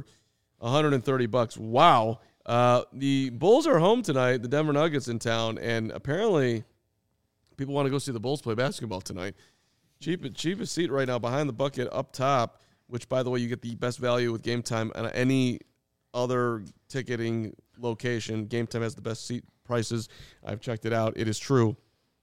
$130. Wow. The Bulls are home tonight. The Denver Nuggets in town, and apparently people want to go see the Bulls play basketball tonight. Cheapest seat right now behind the bucket up top, which, by the way, you get the best value with Game Time on any other ticketing location. Game Time has the best seat prices. I've checked it out. It is true.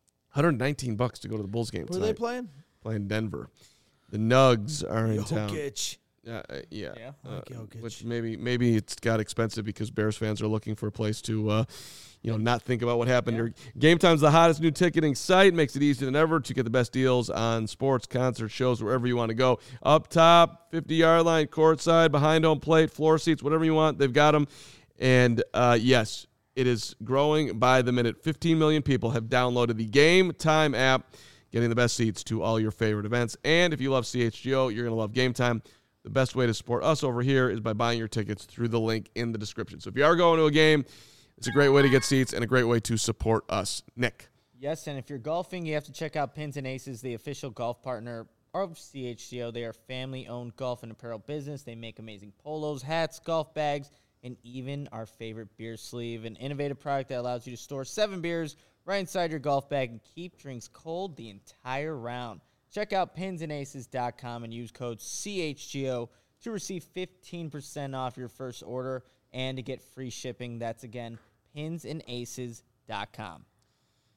$119 to go to the Bulls game Who tonight. are they playing? Playing Denver. The Nugs are in town. Jokic. Yeah. Jokic. Which maybe it's got expensive because Bears fans are looking for a place to not think about what happened. Your Game Time's the hottest new ticketing site. Makes it easier than ever to get the best deals on sports, concerts, shows, wherever you want to go. Up top, 50-yard line, courtside, behind home plate, floor seats, whatever you want, they've got them. And yes, it is growing by the minute. 15 million people have downloaded the Game Time app, getting the best seats to all your favorite events. And if you love CHGO, you're going to love Game Time. The best way to support us over here is by buying your tickets through the link in the description. So if you are going to a game, it's a great way to get seats and a great way to support us. Nick. Yes, and if you're golfing, you have to check out Pins and Aces, the official golf partner of CHGO. They are family-owned golf and apparel business. They make amazing polos, hats, golf bags, and even our favorite beer sleeve, an innovative product that allows you to store 7 beers right inside your golf bag and keep drinks cold the entire round. Check out pinsandaces.com and use code CHGO to receive 15% off your first order and to get free shipping. That's, again, pinsandaces.com.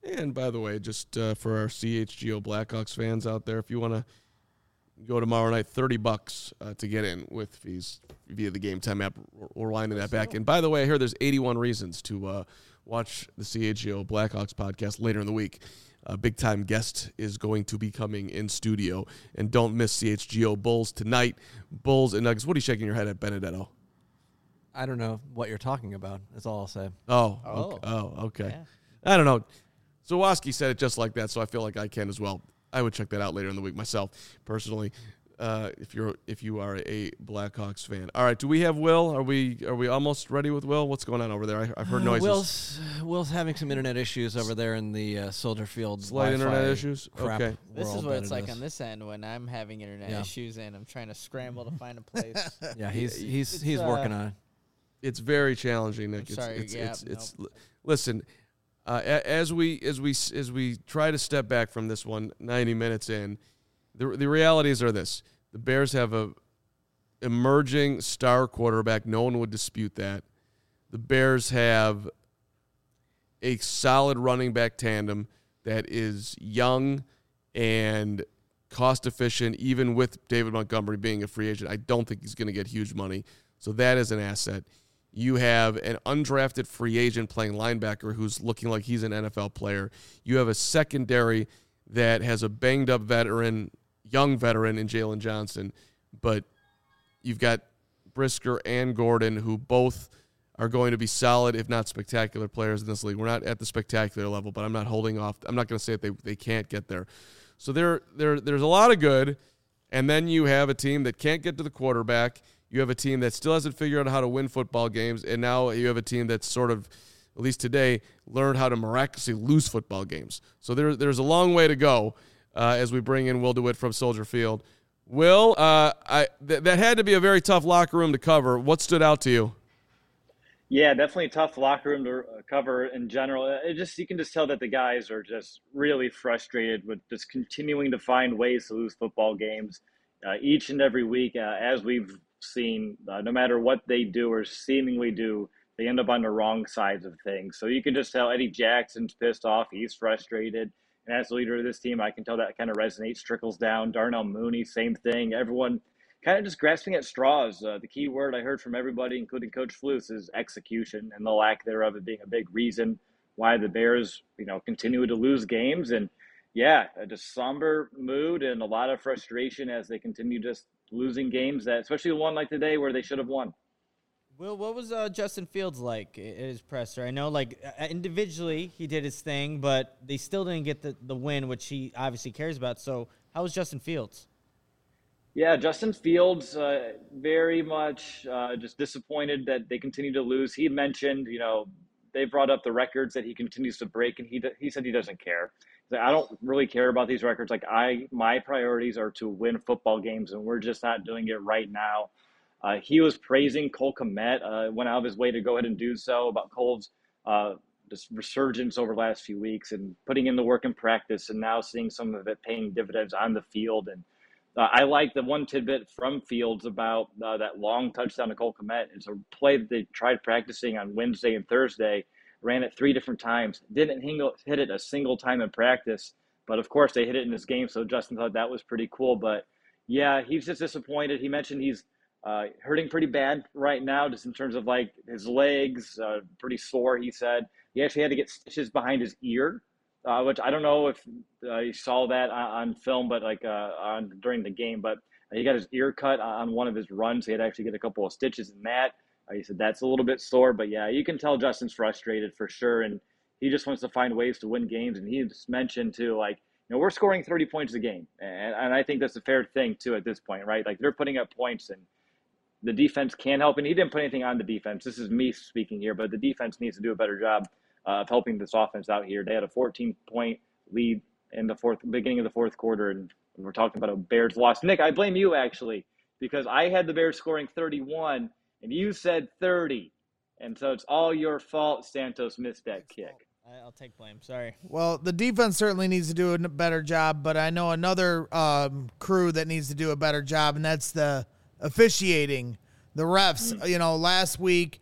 And by the way, just for our CHGO Blackhawks fans out there, if you want to go tomorrow night, $30 to get in with fees via the Game Time app. We're winding that back. And by the way, I hear there's 81 reasons to watch the CHGO Blackhawks podcast later in the week. A big-time guest is going to be coming in studio. And don't miss CHGO Bulls tonight. Bulls and Nuggets. What are you shaking your head at, Benedetto? I don't know what you're talking about. That's all I'll say. Okay. Yeah. I don't know. Zawoski said it just like that, so I feel like I can as well. I would check that out later in the week myself, personally. If you are a Blackhawks fan. All right, do we have Will? Are we almost ready with Will? What's going on over there? I've heard noises. Will's having some internet issues over there in the Soldier Field. Slight Wi-Fi internet issues. crap Okay. This is world what that it's it like is. on this end when I'm having internet issues and I'm trying to scramble to find a place. Yeah, he's It's, working on it. It's very challenging, Nick. I'm sorry. Listen. As we try to step back from this one, 90 minutes in, the realities are this: the Bears have a emerging star quarterback. No one would dispute that. The Bears have a solid running back tandem that is young and cost efficient, even with David Montgomery being a free agent. I don't think he's going to get huge money, so that is an asset. You have an undrafted free agent playing linebacker who's looking like he's an NFL player. You have a secondary that has a banged-up veteran, young veteran in Jalen Johnson, but you've got Brisker and Gordon, who both are going to be solid, if not spectacular players in this league. We're not at the spectacular level, but I'm not holding off. I'm not going to say that they can't get there. So there's a lot of good, and then you have a team that can't get to the quarterback. You have a team that still hasn't figured out how to win football games, and now you have a team that's sort of, at least today, learned how to miraculously lose football games. So there's a long way to go as we bring in Will DeWitt from Soldier Field. Will, that had to be a very tough locker room to cover. What stood out to you? Yeah, definitely a tough locker room to cover in general. You can just tell that the guys are just really frustrated with just continuing to find ways to lose football games each and every week, as we've seen, no matter what they do or seemingly do, they end up on the wrong sides of things. So you can just tell Eddie Jackson's pissed off. He's frustrated. And as the leader of this team, I can tell that kind of resonates, trickles down. Darnell Mooney, same thing. Everyone kind of just grasping at straws. The key word I heard from everybody, including Coach Flus, is execution, and the lack thereof it being a big reason why the Bears, continue to lose games. And yeah, just somber mood and a lot of frustration as they continue just losing games, that especially one like today where they should have won. Will, what was Justin Fields like at his presser? I know, individually he did his thing, but they still didn't get the win, which he obviously cares about. So how was Justin Fields? Yeah, Justin Fields, very much just disappointed that they continue to lose. He mentioned, they brought up the records that he continues to break, and he said he doesn't care. I don't really care about these records. My priorities are to win football games, and we're just not doing it right now. He was praising Cole Kmet, went out of his way to go ahead and do so, about Cole's just resurgence over the last few weeks and putting in the work in practice, and now seeing some of it paying dividends on the field. And I like the one tidbit from Fields about that long touchdown to Cole Kmet. It's a play that they tried practicing on Wednesday and Thursday. Ran it 3 different times. Didn't hit it a single time in practice. But, of course, they hit it in this game, so Justin thought that was pretty cool. But, yeah, he's just disappointed. He mentioned he's hurting pretty bad right now, just in terms of, his legs, pretty sore, he said. He actually had to get stitches behind his ear, which I don't know if you saw that on film, but, during the game. But he got his ear cut on one of his runs. He had to actually get a couple of stitches in that. He said that's a little bit sore, but yeah, you can tell Justin's frustrated for sure, and he just wants to find ways to win games. And he just mentioned too, we're scoring 30 points a game, and I think that's a fair thing too at this point, right? They're putting up points, and the defense can't help. And he didn't put anything on the defense. This is me speaking here, but the defense needs to do a better job of helping this offense out here. They had a 14-point lead in the beginning of the fourth quarter, and we're talking about a Bears loss. Nick, I blame you actually, because I had the Bears scoring 31. And you said 30. And so it's all your fault Santos missed that kick. I'll take blame. Sorry. Well, the defense certainly needs to do a better job, but I know another crew that needs to do a better job, and that's the officiating, the refs. Last week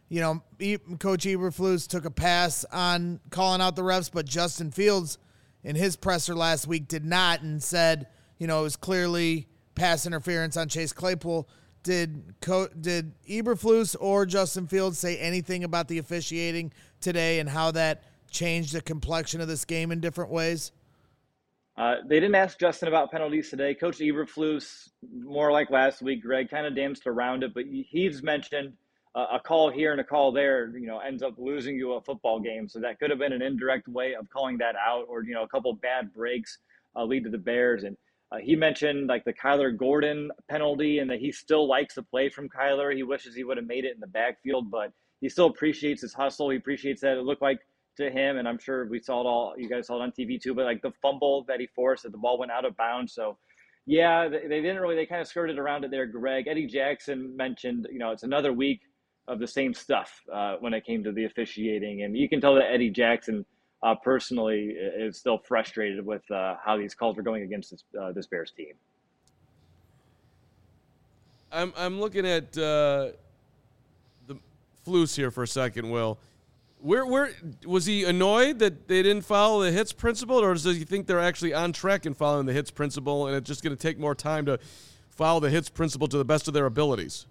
Coach Eberflus took a pass on calling out the refs, but Justin Fields in his presser last week did not and said, it was clearly pass interference on Chase Claypool. Did Eberflus or Justin Fields say anything about the officiating today and how that changed the complexion of this game in different ways? They didn't ask Justin about penalties today. Coach Eberflus, more like last week, Greg, kind of danced around it, but he's mentioned a call here and a call there, ends up losing you a football game. So that could have been an indirect way of calling that out, or, a couple bad breaks lead to the Bears. And he mentioned like the Kyler Gordon penalty and that he still likes the play from Kyler. He wishes he would have made it in the backfield, but he still appreciates his hustle. He appreciates that it looked like to him, and I'm sure we saw it all. You guys saw it on TV too, but like the fumble that he forced, that the ball went out of bounds. So, yeah, they kind of skirted around it there, Greg. Eddie Jackson mentioned, it's another week of the same stuff when it came to the officiating, and you can tell that Eddie Jackson personally is still frustrated with how these calls are going against this Bears team. I'm looking at the Flus here for a second, Will. Where was he annoyed that they didn't follow the hits principle, or does he think they're actually on track in following the hits principle, and it's just going to take more time to follow the hits principle to the best of their abilities?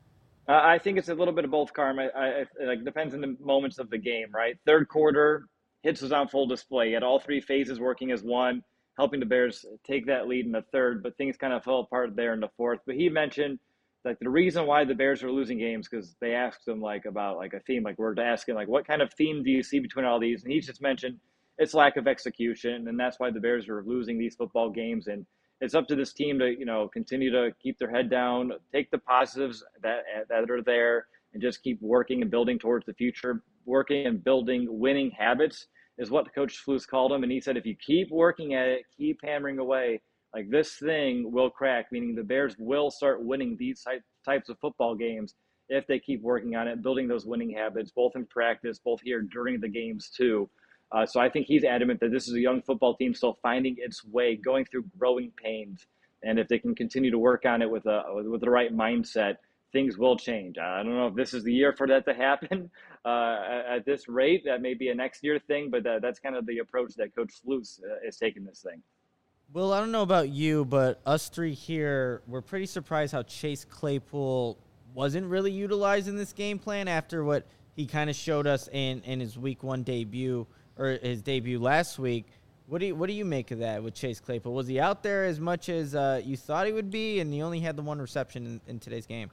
I think it's a little bit of both, Carm. It depends on the moments of the game, right? Third quarter, hits was on full display. He had all three phases working as one, helping the Bears take that lead in the third, but things kind of fell apart there in the fourth. But he mentioned like the reason why the Bears are losing games, because they asked him about a theme, we're asking what kind of theme do you see between all these? And he just mentioned it's lack of execution, and that's why the Bears are losing these football games. And it's up to this team to continue to keep their head down, take the positives that are there, and just keep working and building towards the future. Working and building winning habits is what Coach Flus called them, and he said if you keep working at it, keep hammering away, this thing will crack, meaning the Bears will start winning these types of football games if they keep working on it, building those winning habits, both in practice, both here during the games too. So I think he's adamant that this is a young football team still finding its way, going through growing pains. And if they can continue to work on it with the right mindset, things will change. I don't know if this is the year for that to happen at this rate. That may be a next year thing, but that's kind of the approach that Coach Flus is taking this thing. Well, I don't know about you, but us three here, we're pretty surprised how Chase Claypool wasn't really utilized in this game plan after what he kind of showed us in his week one debut, or his debut last week. What do you make of that with Chase Claypool? Was he out there as much as you thought he would be, and he only had the one reception in today's game?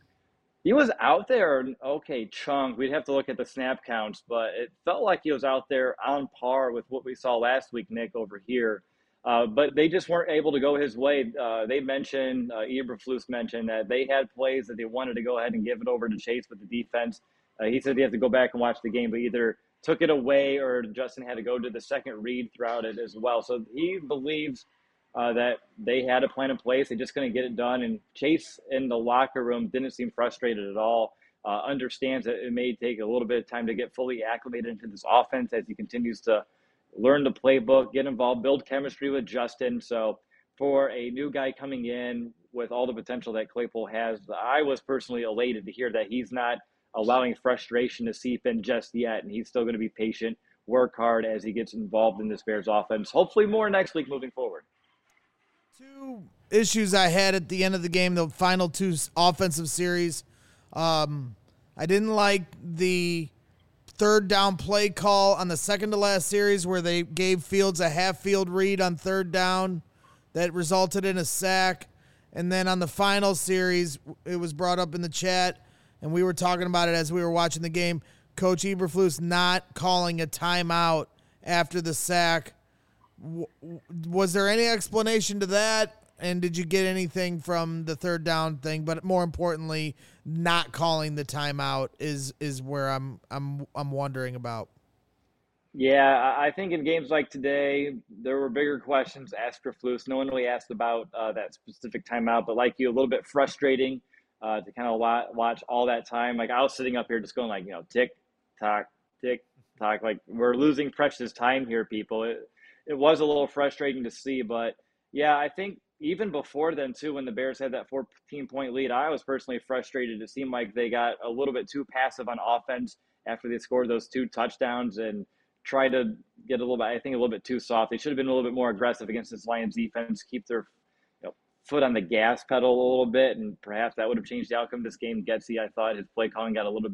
He was out there, okay, chunk. We'd have to look at the snap counts, but it felt like he was out there on par with what we saw last week, Nick, over here. But they just weren't able to go his way. They mentioned, Eberflus mentioned that they had plays that they wanted to go ahead and give it over to Chase with the defense. He said he had to go back and watch the game, but either took it away or Justin had to go to the second read throughout it as well. So he believes that they had a plan in place. They just couldn't get it done. And Chase in the locker room didn't seem frustrated at all. Understands that it may take a little bit of time to get fully acclimated into this offense as he continues to learn the playbook, get involved, build chemistry with Justin. So for a new guy coming in with all the potential that Claypool has, I was personally elated to hear that he's not allowing frustration to seep in just yet, and he's still going to be patient, work hard as he gets involved in this Bears offense. Hopefully more next week moving forward. Two issues I had at the end of the game, the final two offensive series. I didn't like the third down play call on the second to last series where they gave Fields a half field read on third down that resulted in a sack. And then on the final series, it was brought up in the chat, and we were talking about it as we were watching the game, Coach Eberflus not calling a timeout after the sack. Was there any explanation to that? And did you get anything from the third down thing? But more importantly, not calling the timeout is where I'm wondering about. Yeah, I think in games like today, there were bigger questions asked for Flus. No one really asked about that specific timeout, but like you, a little bit frustrating to kind of watch all that time. Like I was sitting up here just going tick tock, like we're losing precious time here, people. It was a little frustrating to see, but yeah, I think even before then, too, when the Bears had that 14-point lead, I was personally frustrated. It seemed like they got a little bit too passive on offense after they scored those 2 touchdowns and tried to get a little bit, I think, a little bit too soft. They should have been a little bit more aggressive against this Lions defense, keep their foot on the gas pedal a little bit, and perhaps that would have changed the outcome of this game. Getsy, I thought his play calling got a little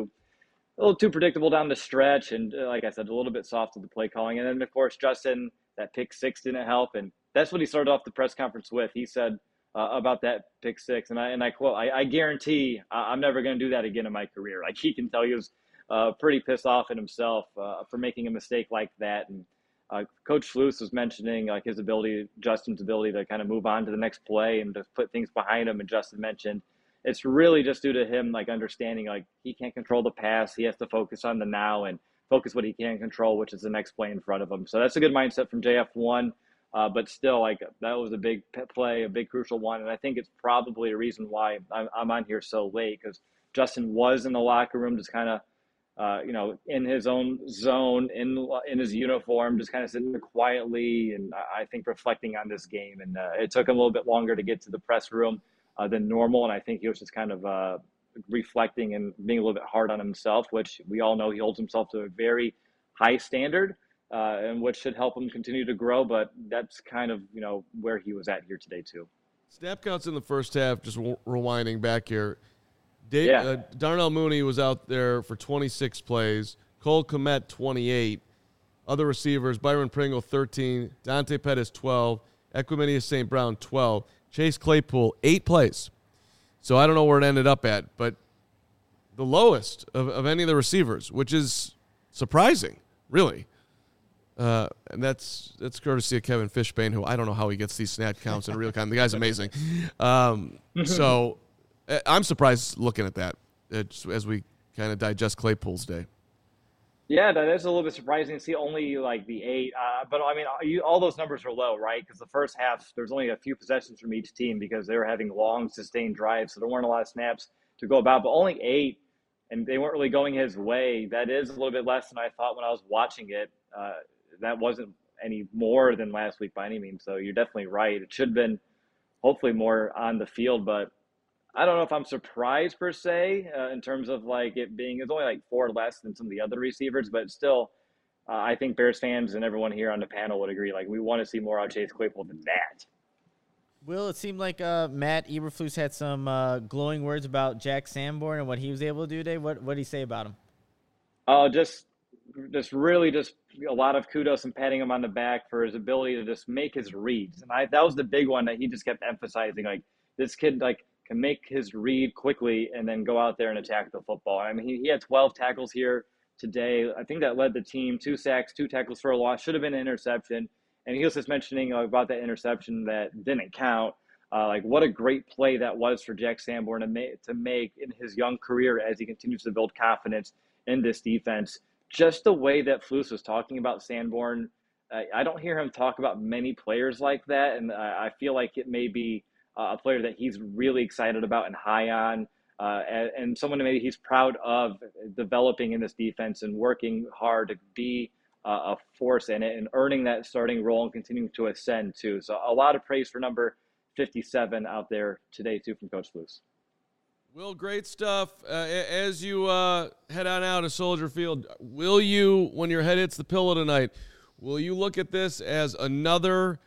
too predictable down the stretch, and like I said, a little bit soft with the play calling. And then, of course, Justin, that pick 6 didn't help, and that's what he started off the press conference with. He said about that pick 6, and I quote, I guarantee I'm never going to do that again in my career. Like, he can tell he was pretty pissed off at himself for making a mistake like that. And Coach Flus was mentioning like Justin's ability to kind of move on to the next play and to put things behind him. And Justin mentioned it's really just due to him like understanding like he can't control the pass. He has to focus on the now and focus what he can control, which is the next play in front of him. So that's a good mindset from JF1. But still, like that was a big play, a big crucial one. And I think it's probably a reason why I'm on here so late, because Justin was in the locker room just kind of, in his own zone, in his uniform, just kind of sitting there quietly, and I think reflecting on this game. And it took him a little bit longer to get to the press room than normal, and I think he was just kind of reflecting and being a little bit hard on himself, which we all know he holds himself to a very high standard, and which should help him continue to grow. But that's kind of where he was at here today too. Snap counts in the first half, just rewinding back here. Yeah. Darnell Mooney was out there for 26 plays. Cole Kmet, 28. Other receivers, Byron Pringle, 13. Dante Pettis, 12. Equiminius St. Brown, 12. Chase Claypool, 8 plays. So I don't know where it ended up at, but the lowest of any of the receivers, which is surprising, really. And that's courtesy of Kevin Fishbane, who I don't know how he gets these snap counts in real time. The guy's amazing. So I'm surprised looking at that as we kind of digest Claypool's day. Yeah, that is a little bit surprising to see only like the 8. But I mean, all those numbers are low, right? Because the first half, there's only a few possessions from each team because they were having long, sustained drives. So there weren't a lot of snaps to go about, but only 8, and they weren't really going his way. That is a little bit less than I thought when I was watching it. That wasn't any more than last week by any means. So you're definitely right. It should have been hopefully more on the field, but I don't know if I'm surprised per se in terms of like it's only like 4 less than some of the other receivers, but still, I think Bears fans and everyone here on the panel would agree. Like we want to see more out of Chase Claypool than that. Will, it seemed like Matt Eberflus had some glowing words about Jack Sanborn and what he was able to do today. What did he say about him? Oh, just really a lot of kudos and patting him on the back for his ability to just make his reads. And that was the big one that he just kept emphasizing. Like this kid, like, can make his read quickly and then go out there and attack the football. I mean, he had 12 tackles here today. I think that led the team, 2 sacks, 2 tackles for a loss, should have been an interception. And he was just mentioning about that interception that didn't count. Like what a great play that was for Jack Sanborn to make in his young career as he continues to build confidence in this defense. Just the way that Flus was talking about Sanborn, I don't hear him talk about many players like that. And I feel like it may be a player that he's really excited about and high on, and someone maybe he's proud of developing in this defense and working hard to be a force in it and earning that starting role and continuing to ascend too. So a lot of praise for number 57 out there today too from Coach Flus. Will, great stuff. As you head on out of Soldier Field, will you, when your head hits the pillow tonight, will you look at this as another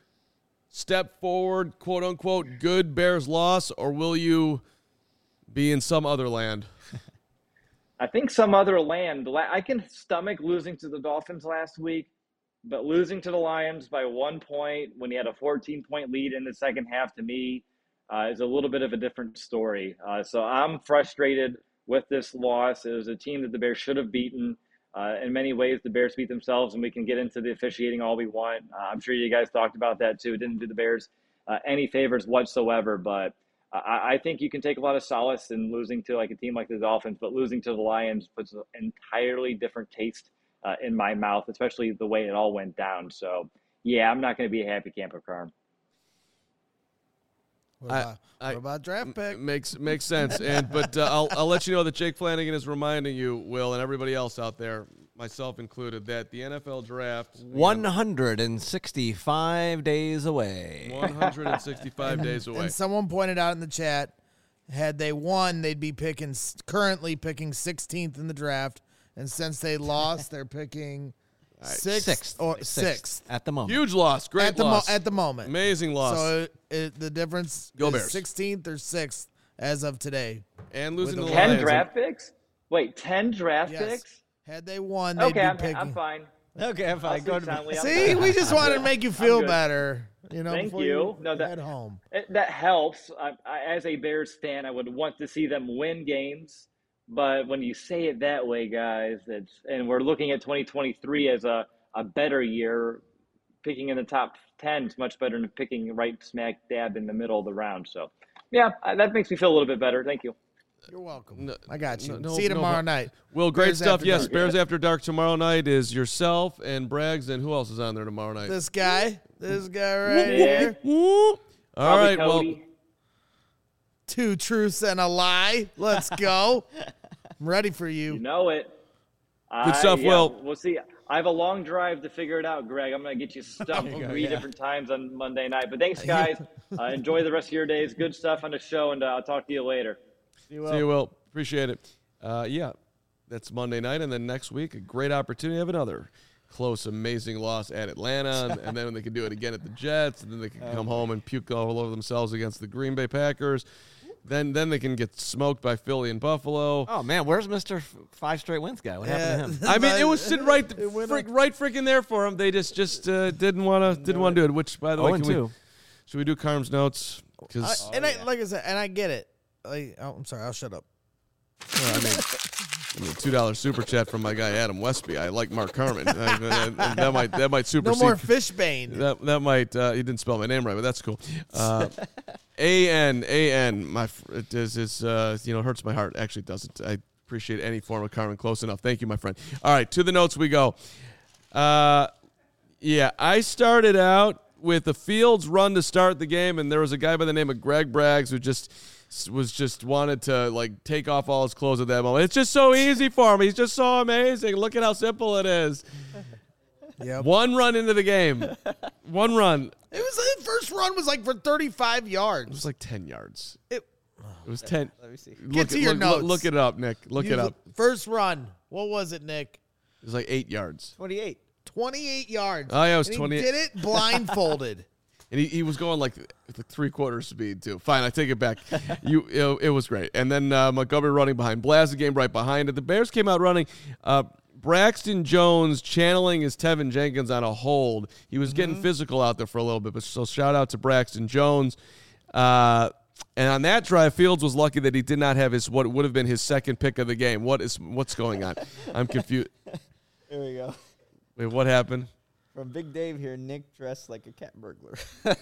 step forward, quote unquote, good Bears loss, or will you be in some other land? I think some other land. I can stomach losing to the Dolphins last week, but losing to the Lions by 1 point when you had a 14-point lead in the second half, to me, is a little bit of a different story. So I'm frustrated with this loss. It was a team that the Bears should have beaten. In many ways, the Bears beat themselves, and we can get into the officiating all we want. I'm sure you guys talked about that too. It didn't do the Bears any favors whatsoever, but I think you can take a lot of solace in losing to like a team like the Dolphins, but losing to the Lions puts an entirely different taste in my mouth, especially the way it all went down. So, yeah, I'm not going to be a happy camper, Carm. What about draft pick? Makes sense. But I'll let you know that Jake Flanagan is reminding you, Will, and everybody else out there, myself included, that the NFL draft 165 days away. 165 days away. And someone pointed out in the chat, had they won, they'd be currently picking 16th in the draft, and since they lost, they're picking sixth at the moment. Huge loss. Great loss. At the moment. Amazing loss. So the difference Go is Bears. 16th or 6th as of today. And losing to the 10 Lions. draft picks? Wait, 10 draft Yes. picks? Had they won, they'd Okay, be I'm picking. fine. Okay, if I I'll go sleep to soundly. I'm See, fine. we just wanted to make you feel good. better. Thank before you. No, head home. That helps. As a Bears fan, I would want to see them win games. But when you say it that way, guys, and we're looking at 2023 as a better year, picking in the top 10 is much better than picking right smack dab in the middle of the round. So, yeah, that makes me feel a little bit better. Thank you. You're welcome. No- I got you. no- See you no- tomorrow night. Will, great Bears stuff. After Yes, Dark. Bears After Dark tomorrow night is yourself and Braggs, and who else is on there tomorrow night? This guy right Yeah. here. Whoop. All Probably right, well, Cody. 2 truths and a lie. Let's go. I'm ready for You you. know it. Good stuff, Will. We'll see. I have a long drive to figure it out, Greg. I'm going to get you stumped 3 different times on Monday night. But thanks, guys. Enjoy the rest of your days. Good stuff on the show, and I'll talk to you later. see you, Will. Appreciate it. Yeah, that's Monday night, and then next week, a great opportunity to have another close, amazing loss at Atlanta, and then they can do it again at the Jets, and then they can come home and puke all over themselves against the Green Bay Packers. Then they can get smoked by Philly and Buffalo. Oh man, where's Mr. 5 straight wins guy? What happened to him? I mean, it was sitting right freaking there for them. They just didn't want to do it. Which, by the way, should we do Carm's notes? Because Like I said, and I get it. I'm sorry. I'll shut up. I mean, $2 super chat from my guy Adam Westby. I like Mark Carmen. that might supersede. No more Fishbane. That might. He didn't spell my name right, but that's cool. A-N. It hurts my heart. Actually, it doesn't. I appreciate any form of Carmen close enough. Thank you, my friend. All right, to the notes we go. Yeah, I started out with a Fields run to start the game, and there was a guy by the name of Greg Braggs who just wanted to like take off all his clothes at that moment. It's just so easy for him. He's just so amazing. Look at how simple it is. Yep. One run into the game. One run. It was the first run was like for 35 yards. It was like 10 yards. It was 10. Let me see. Get to your notes. Look it up, Nick. Look it up. First run. What was it, Nick? It was like 8 yards. 28. 28 yards. Oh, yeah, it was And 28. He did it blindfolded. And he was going like 3/4 speed too. Fine, I take it back. It was great. And then Montgomery running behind Blaz, the game right behind it. The Bears came out running. Braxton Jones channeling his Tevin Jenkins on a hold. He was getting physical out there for a little bit. But so shout out to Braxton Jones. And on that drive, Fields was lucky that he did not have what would have been his second pick of the game. What's going on? I'm confused. Here we go. Wait, what happened? From Big Dave here, Nick dressed like a cat burglar.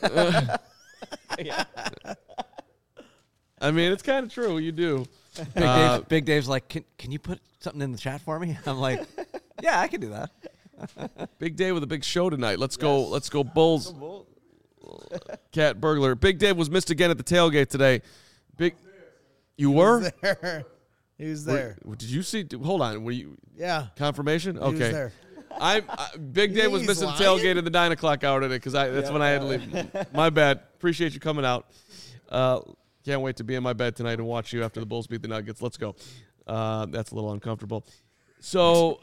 I mean, it's kind of true. You do. Big Dave's like, can you put something in the chat for me? I'm like, yeah, I can do that. Big day with a big show tonight. Let's go Bulls. Cat burglar. Big Dave was missed again at the tailgate today. You were? He was there. Did you see? Hold on. Were you? Yeah. Confirmation? He was Okay. there. Big Dave think was he's missing the lying? tailgate at the 9 o'clock hour today because that's when I had to leave. My bad. Appreciate you coming out. Can't wait to be in my bed tonight and watch you after the Bulls beat the Nuggets. Let's go. That's a little uncomfortable. So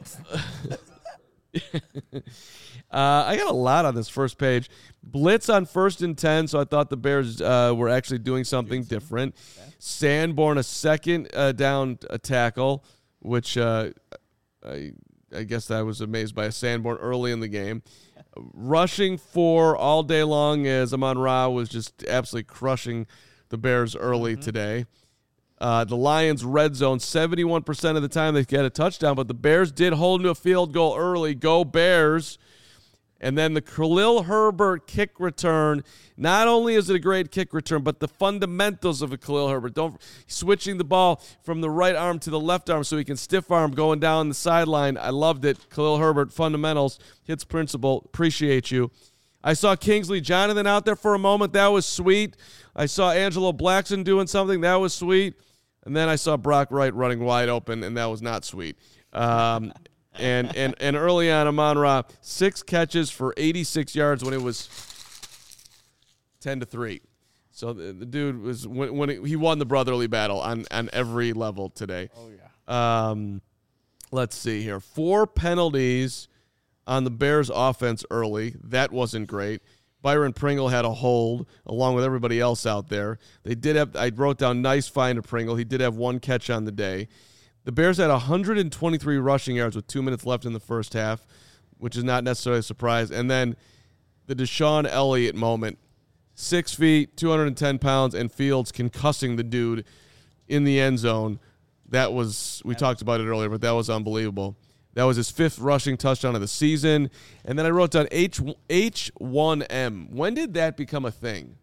I got a lot on this first page. Blitz on 1st and 10, so I thought the Bears were actually doing something different. Sanborn, a second down tackle, which I guess I was amazed by a Sanborn early in the game. Rushing 4 all day long as Amon-Ra was just absolutely crushing the Bears early today. The Lions red zone, 71% of the time they get a touchdown, but the Bears did hold to a field goal early. Go Bears. And then the Khalil Herbert kick return. Not only is it a great kick return, but the fundamentals of a Khalil Herbert. Switching the ball from the right arm to the left arm so he can stiff arm going down the sideline. I loved it. Khalil Herbert, fundamentals, hits principle. Appreciate you. I saw Kingsley Jonathan out there for a moment. That was sweet. I saw Angelo Blackson doing something. That was sweet. And then I saw Brock Wright running wide open, and that was not sweet. And early on, Amon-Ra, 6 catches for 86 yards when it was 10-3. So the dude was when he won the brotherly battle on every level today. Oh yeah. Let's see here. 4 penalties on the Bears offense early. That wasn't great. Byron Pringle had a hold along with everybody else out there. They did have, I wrote down nice find of Pringle. He did have 1 catch on the day. The Bears had 123 rushing yards with 2 minutes left in the first half, which is not necessarily a surprise. And then the Deshaun Elliott moment, 6 feet, 210 pounds, and Fields concussing the dude in the end zone. That was, we talked about it earlier, but that was unbelievable. That was his 5th rushing touchdown of the season. And then I wrote down H1M. When did that become a thing?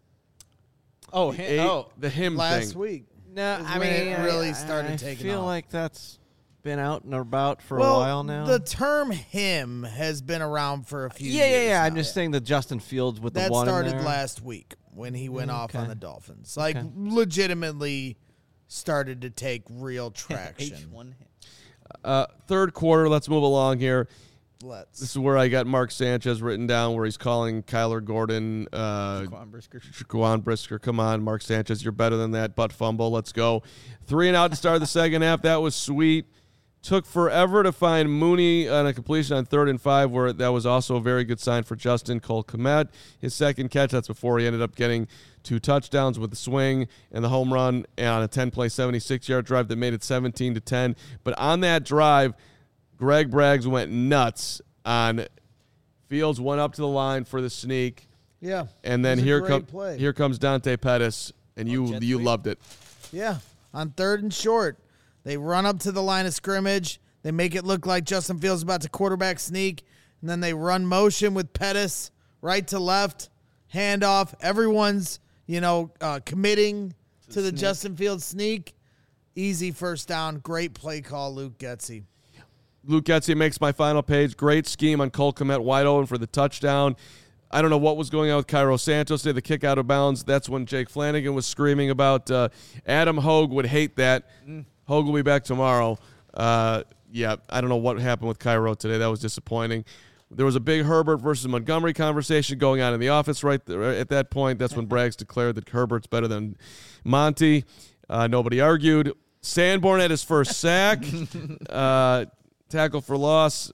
The him Last thing. week. No, is I when mean, it really started I taking feel off. like that's been out and about for Well, a while now. the term "him" has been around for a few years. yeah. now. I'm just saying the Justin Fields with That the one in started there. last week when he went off on Okay. the Dolphins. Like, Okay. legitimately started to take real traction. H1. Third quarter, let's move along here. This Let's. is where I got Mark Sanchez written down, where he's calling Kyler Gordon, Jaquan Brisker. Come on, Mark Sanchez, you're better than that. Butt fumble. Let's go. 3 and out to start the second half. That was sweet. Took forever to find Mooney on a completion on 3rd and 5, where that was also a very good sign for Justin Cole Kmet. His second catch, that's before he ended up getting 2 touchdowns with the swing and the home run on a 10-play, 76-yard drive that made it 17-10. But on that drive, Greg Braggs went nuts on Fields, went up to the line for the sneak, Yeah. and then It was a here great play. here comes Dante Pettis, and you loved it. Yeah. On 3rd and short, they run up to the line of scrimmage. They make it look like Justin Fields is about to quarterback sneak, and then they run motion with Pettis right to left, handoff. Everyone's, committing to the Justin Fields sneak. Easy first down. Great play call, Luke Getsy. Luke Getsy makes my final page. Great scheme on Cole Kmet, wide open for the touchdown. I don't know what was going on with Cairo Santos today, the kick out of bounds. That's when Jake Flanagan was screaming about Adam Hogue would hate that. Hogue will be back tomorrow. I don't know what happened with Cairo today. That was disappointing. There was a big Herbert versus Montgomery conversation going on in the office right there, at that point. That's when Braggs declared that Herbert's better than Monty. Nobody argued. Sanborn had his first sack. Tackle for loss.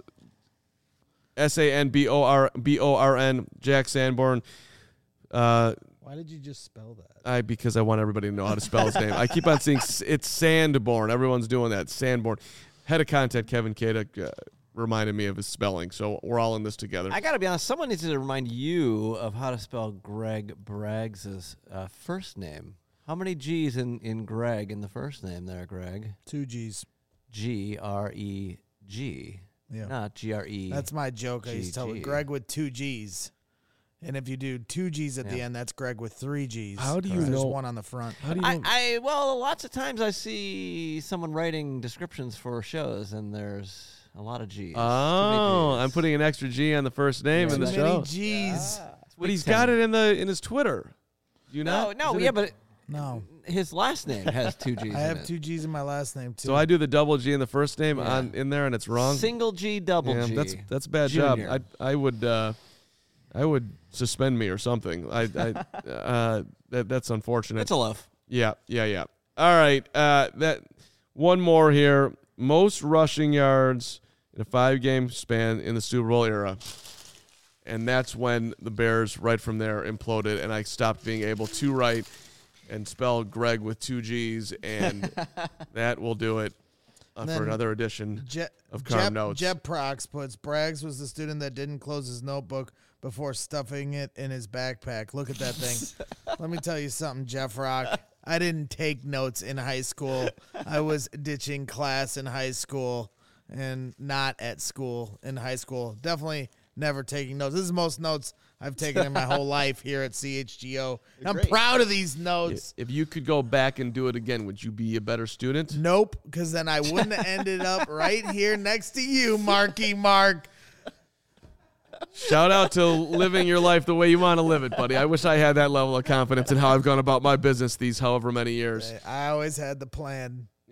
Sanborn, Jack Sanborn. Why did you just spell that? Because I want everybody to know how to spell his name. I keep on seeing it's Sandborn. Everyone's doing that. Sanborn. Head of content Kevin Kadek reminded me of his spelling, so we're all in this together. I got to be honest. Someone needs to remind you of how to spell Greg Braggs' first name. How many G's in Greg in the first name there, Greg? 2 G's. Greg. Yeah. Not GRE. That's my joke. I used to tell GG. Greg with 2 G's. And if you do 2 G's at the end, that's Greg with 3 G's. How do you 'cause there's know- one on the front. How do you know? Well, lots of times I see someone writing descriptions for shows, and there's a lot of G's. Oh, I'm putting an extra G on the first name in Too the many show. G's. But he's got it in his Twitter. Do you No, not? no, Is it yeah, a- but No. his last name has 2 G's. I in have it. 2 G's in my last name, too. So I do the double G in the first name Yeah. in there, and it's wrong. Single G, double Yeah, G. that's a bad Junior. job. I would suspend me or something. That's unfortunate. That's a loaf. Yeah. All right, that one more here. Most rushing yards in a 5-game span in the Super Bowl era. And that's when the Bears, right from there, imploded, and I stopped being able to write and spell Greg with 2 G's, and that will do it for Then another edition of Carm Notes. Jeb Prox puts, Braggs was the student that didn't close his notebook before stuffing it in his backpack. Look at that thing. Let me tell you something, Jeff Rock. I didn't take notes in high school. I was ditching class in high school and not at school in high school. Definitely never taking notes. This is the most notes I've taken in my whole life here at CHGO. I'm proud of these notes. If you could go back and do it again, would you be a better student? Nope, because then I wouldn't have ended up right here next to you, Marky Mark. Shout out to living your life the way you want to live it, buddy. I wish I had that level of confidence in how I've gone about my business these however many years. I always had the plan. Yeah.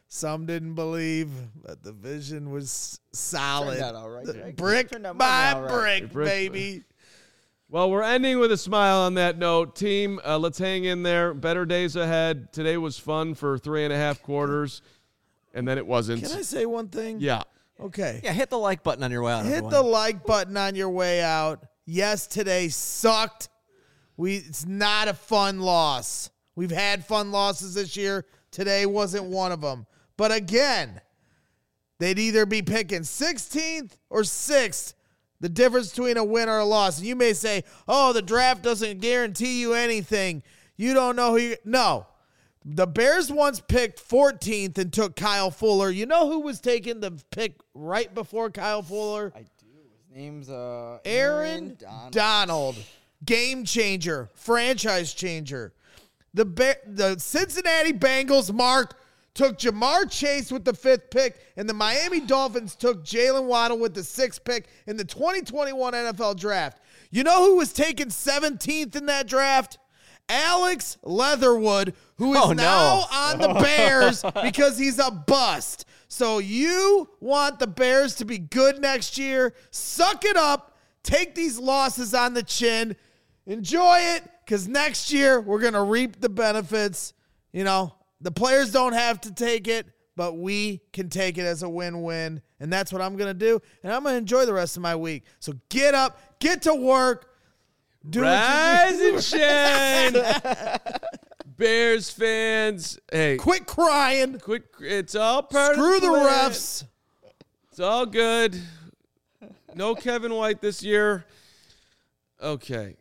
Some didn't believe, but the vision was solid. Turned out all right, Greg. Brick Turned out by all right. brick, Brick- baby. Well, we're ending with a smile on that note. Team, let's hang in there. Better days ahead. Today was fun for 3.5 quarters, and then it wasn't. Can I say one thing? Yeah. Okay. Yeah, hit the like button on your way out. Hit everyone. the like button on your way out. Yes, today sucked. It's not a fun loss. We've had fun losses this year. Today wasn't one of them. But again, they'd either be picking 16th or 6th. The difference between a win or a loss. And you may say, oh, the draft doesn't guarantee you anything. You don't know who you... No. The Bears once picked 14th and took Kyle Fuller. You know who was taking the pick right before Kyle Fuller? I do. His name's Aaron Donald. Game changer. Franchise changer. The Cincinnati Bengals, Mark, took Jamar Chase with the 5th pick, and the Miami Dolphins took Jalen Waddle with the 6th pick in the 2021 NFL Draft. You know who was taken 17th in that draft? Alex Leatherwood, who is now on the Bears because he's a bust. So you want the Bears to be good next year. Suck it up. Take these losses on the chin. Enjoy it, because next year we're going to reap the benefits. You know, the players don't have to take it, but we can take it as a win-win, and that's what I'm going to do, and I'm going to enjoy the rest of my week. So get up, get to work, do Rise what you do. and shine. Bears fans, hey, Quit crying. quit. It's all part Screw of the plan. refs. It's all good. No Kevin White this year. Okay.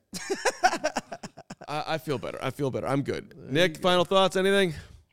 I feel better. I'm good. Nick, final thoughts? Anything?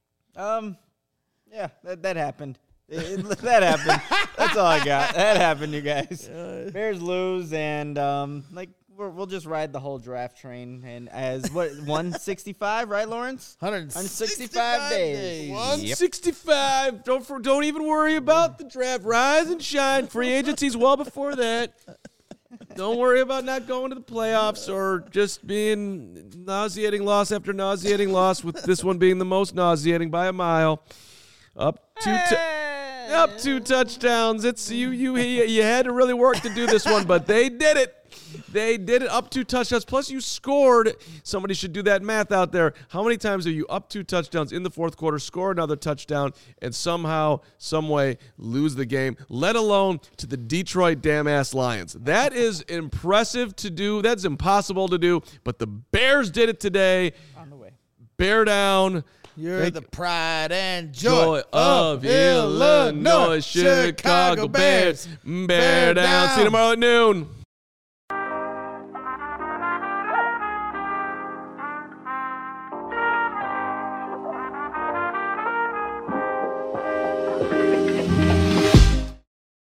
Yeah, that happened. That happened. That's all I got. That happened, you guys. Bears lose, and we'll just ride the whole draft train. And as 165, right, Lawrence? 165 days. 165. Don't even worry about the draft. Rise and shine. Free agency's well before that. Don't worry about not going to the playoffs or just being nauseating loss after nauseating loss, with this one being the most nauseating by a mile. Up two touchdowns. It's you had to really work to do this one, but they did it. They did it. Up 2 touchdowns. Plus, you scored. Somebody should do that math out there. How many times are you up 2 touchdowns in the fourth quarter, score another touchdown, and somehow, some way, lose the game, let alone to the Detroit damn-ass Lions? That is impressive to do. That's impossible to do. But the Bears did it today. On the way. Bear down. You're the pride and Joy joy of Illinois, Chicago Bears. Bear down. See you tomorrow at noon.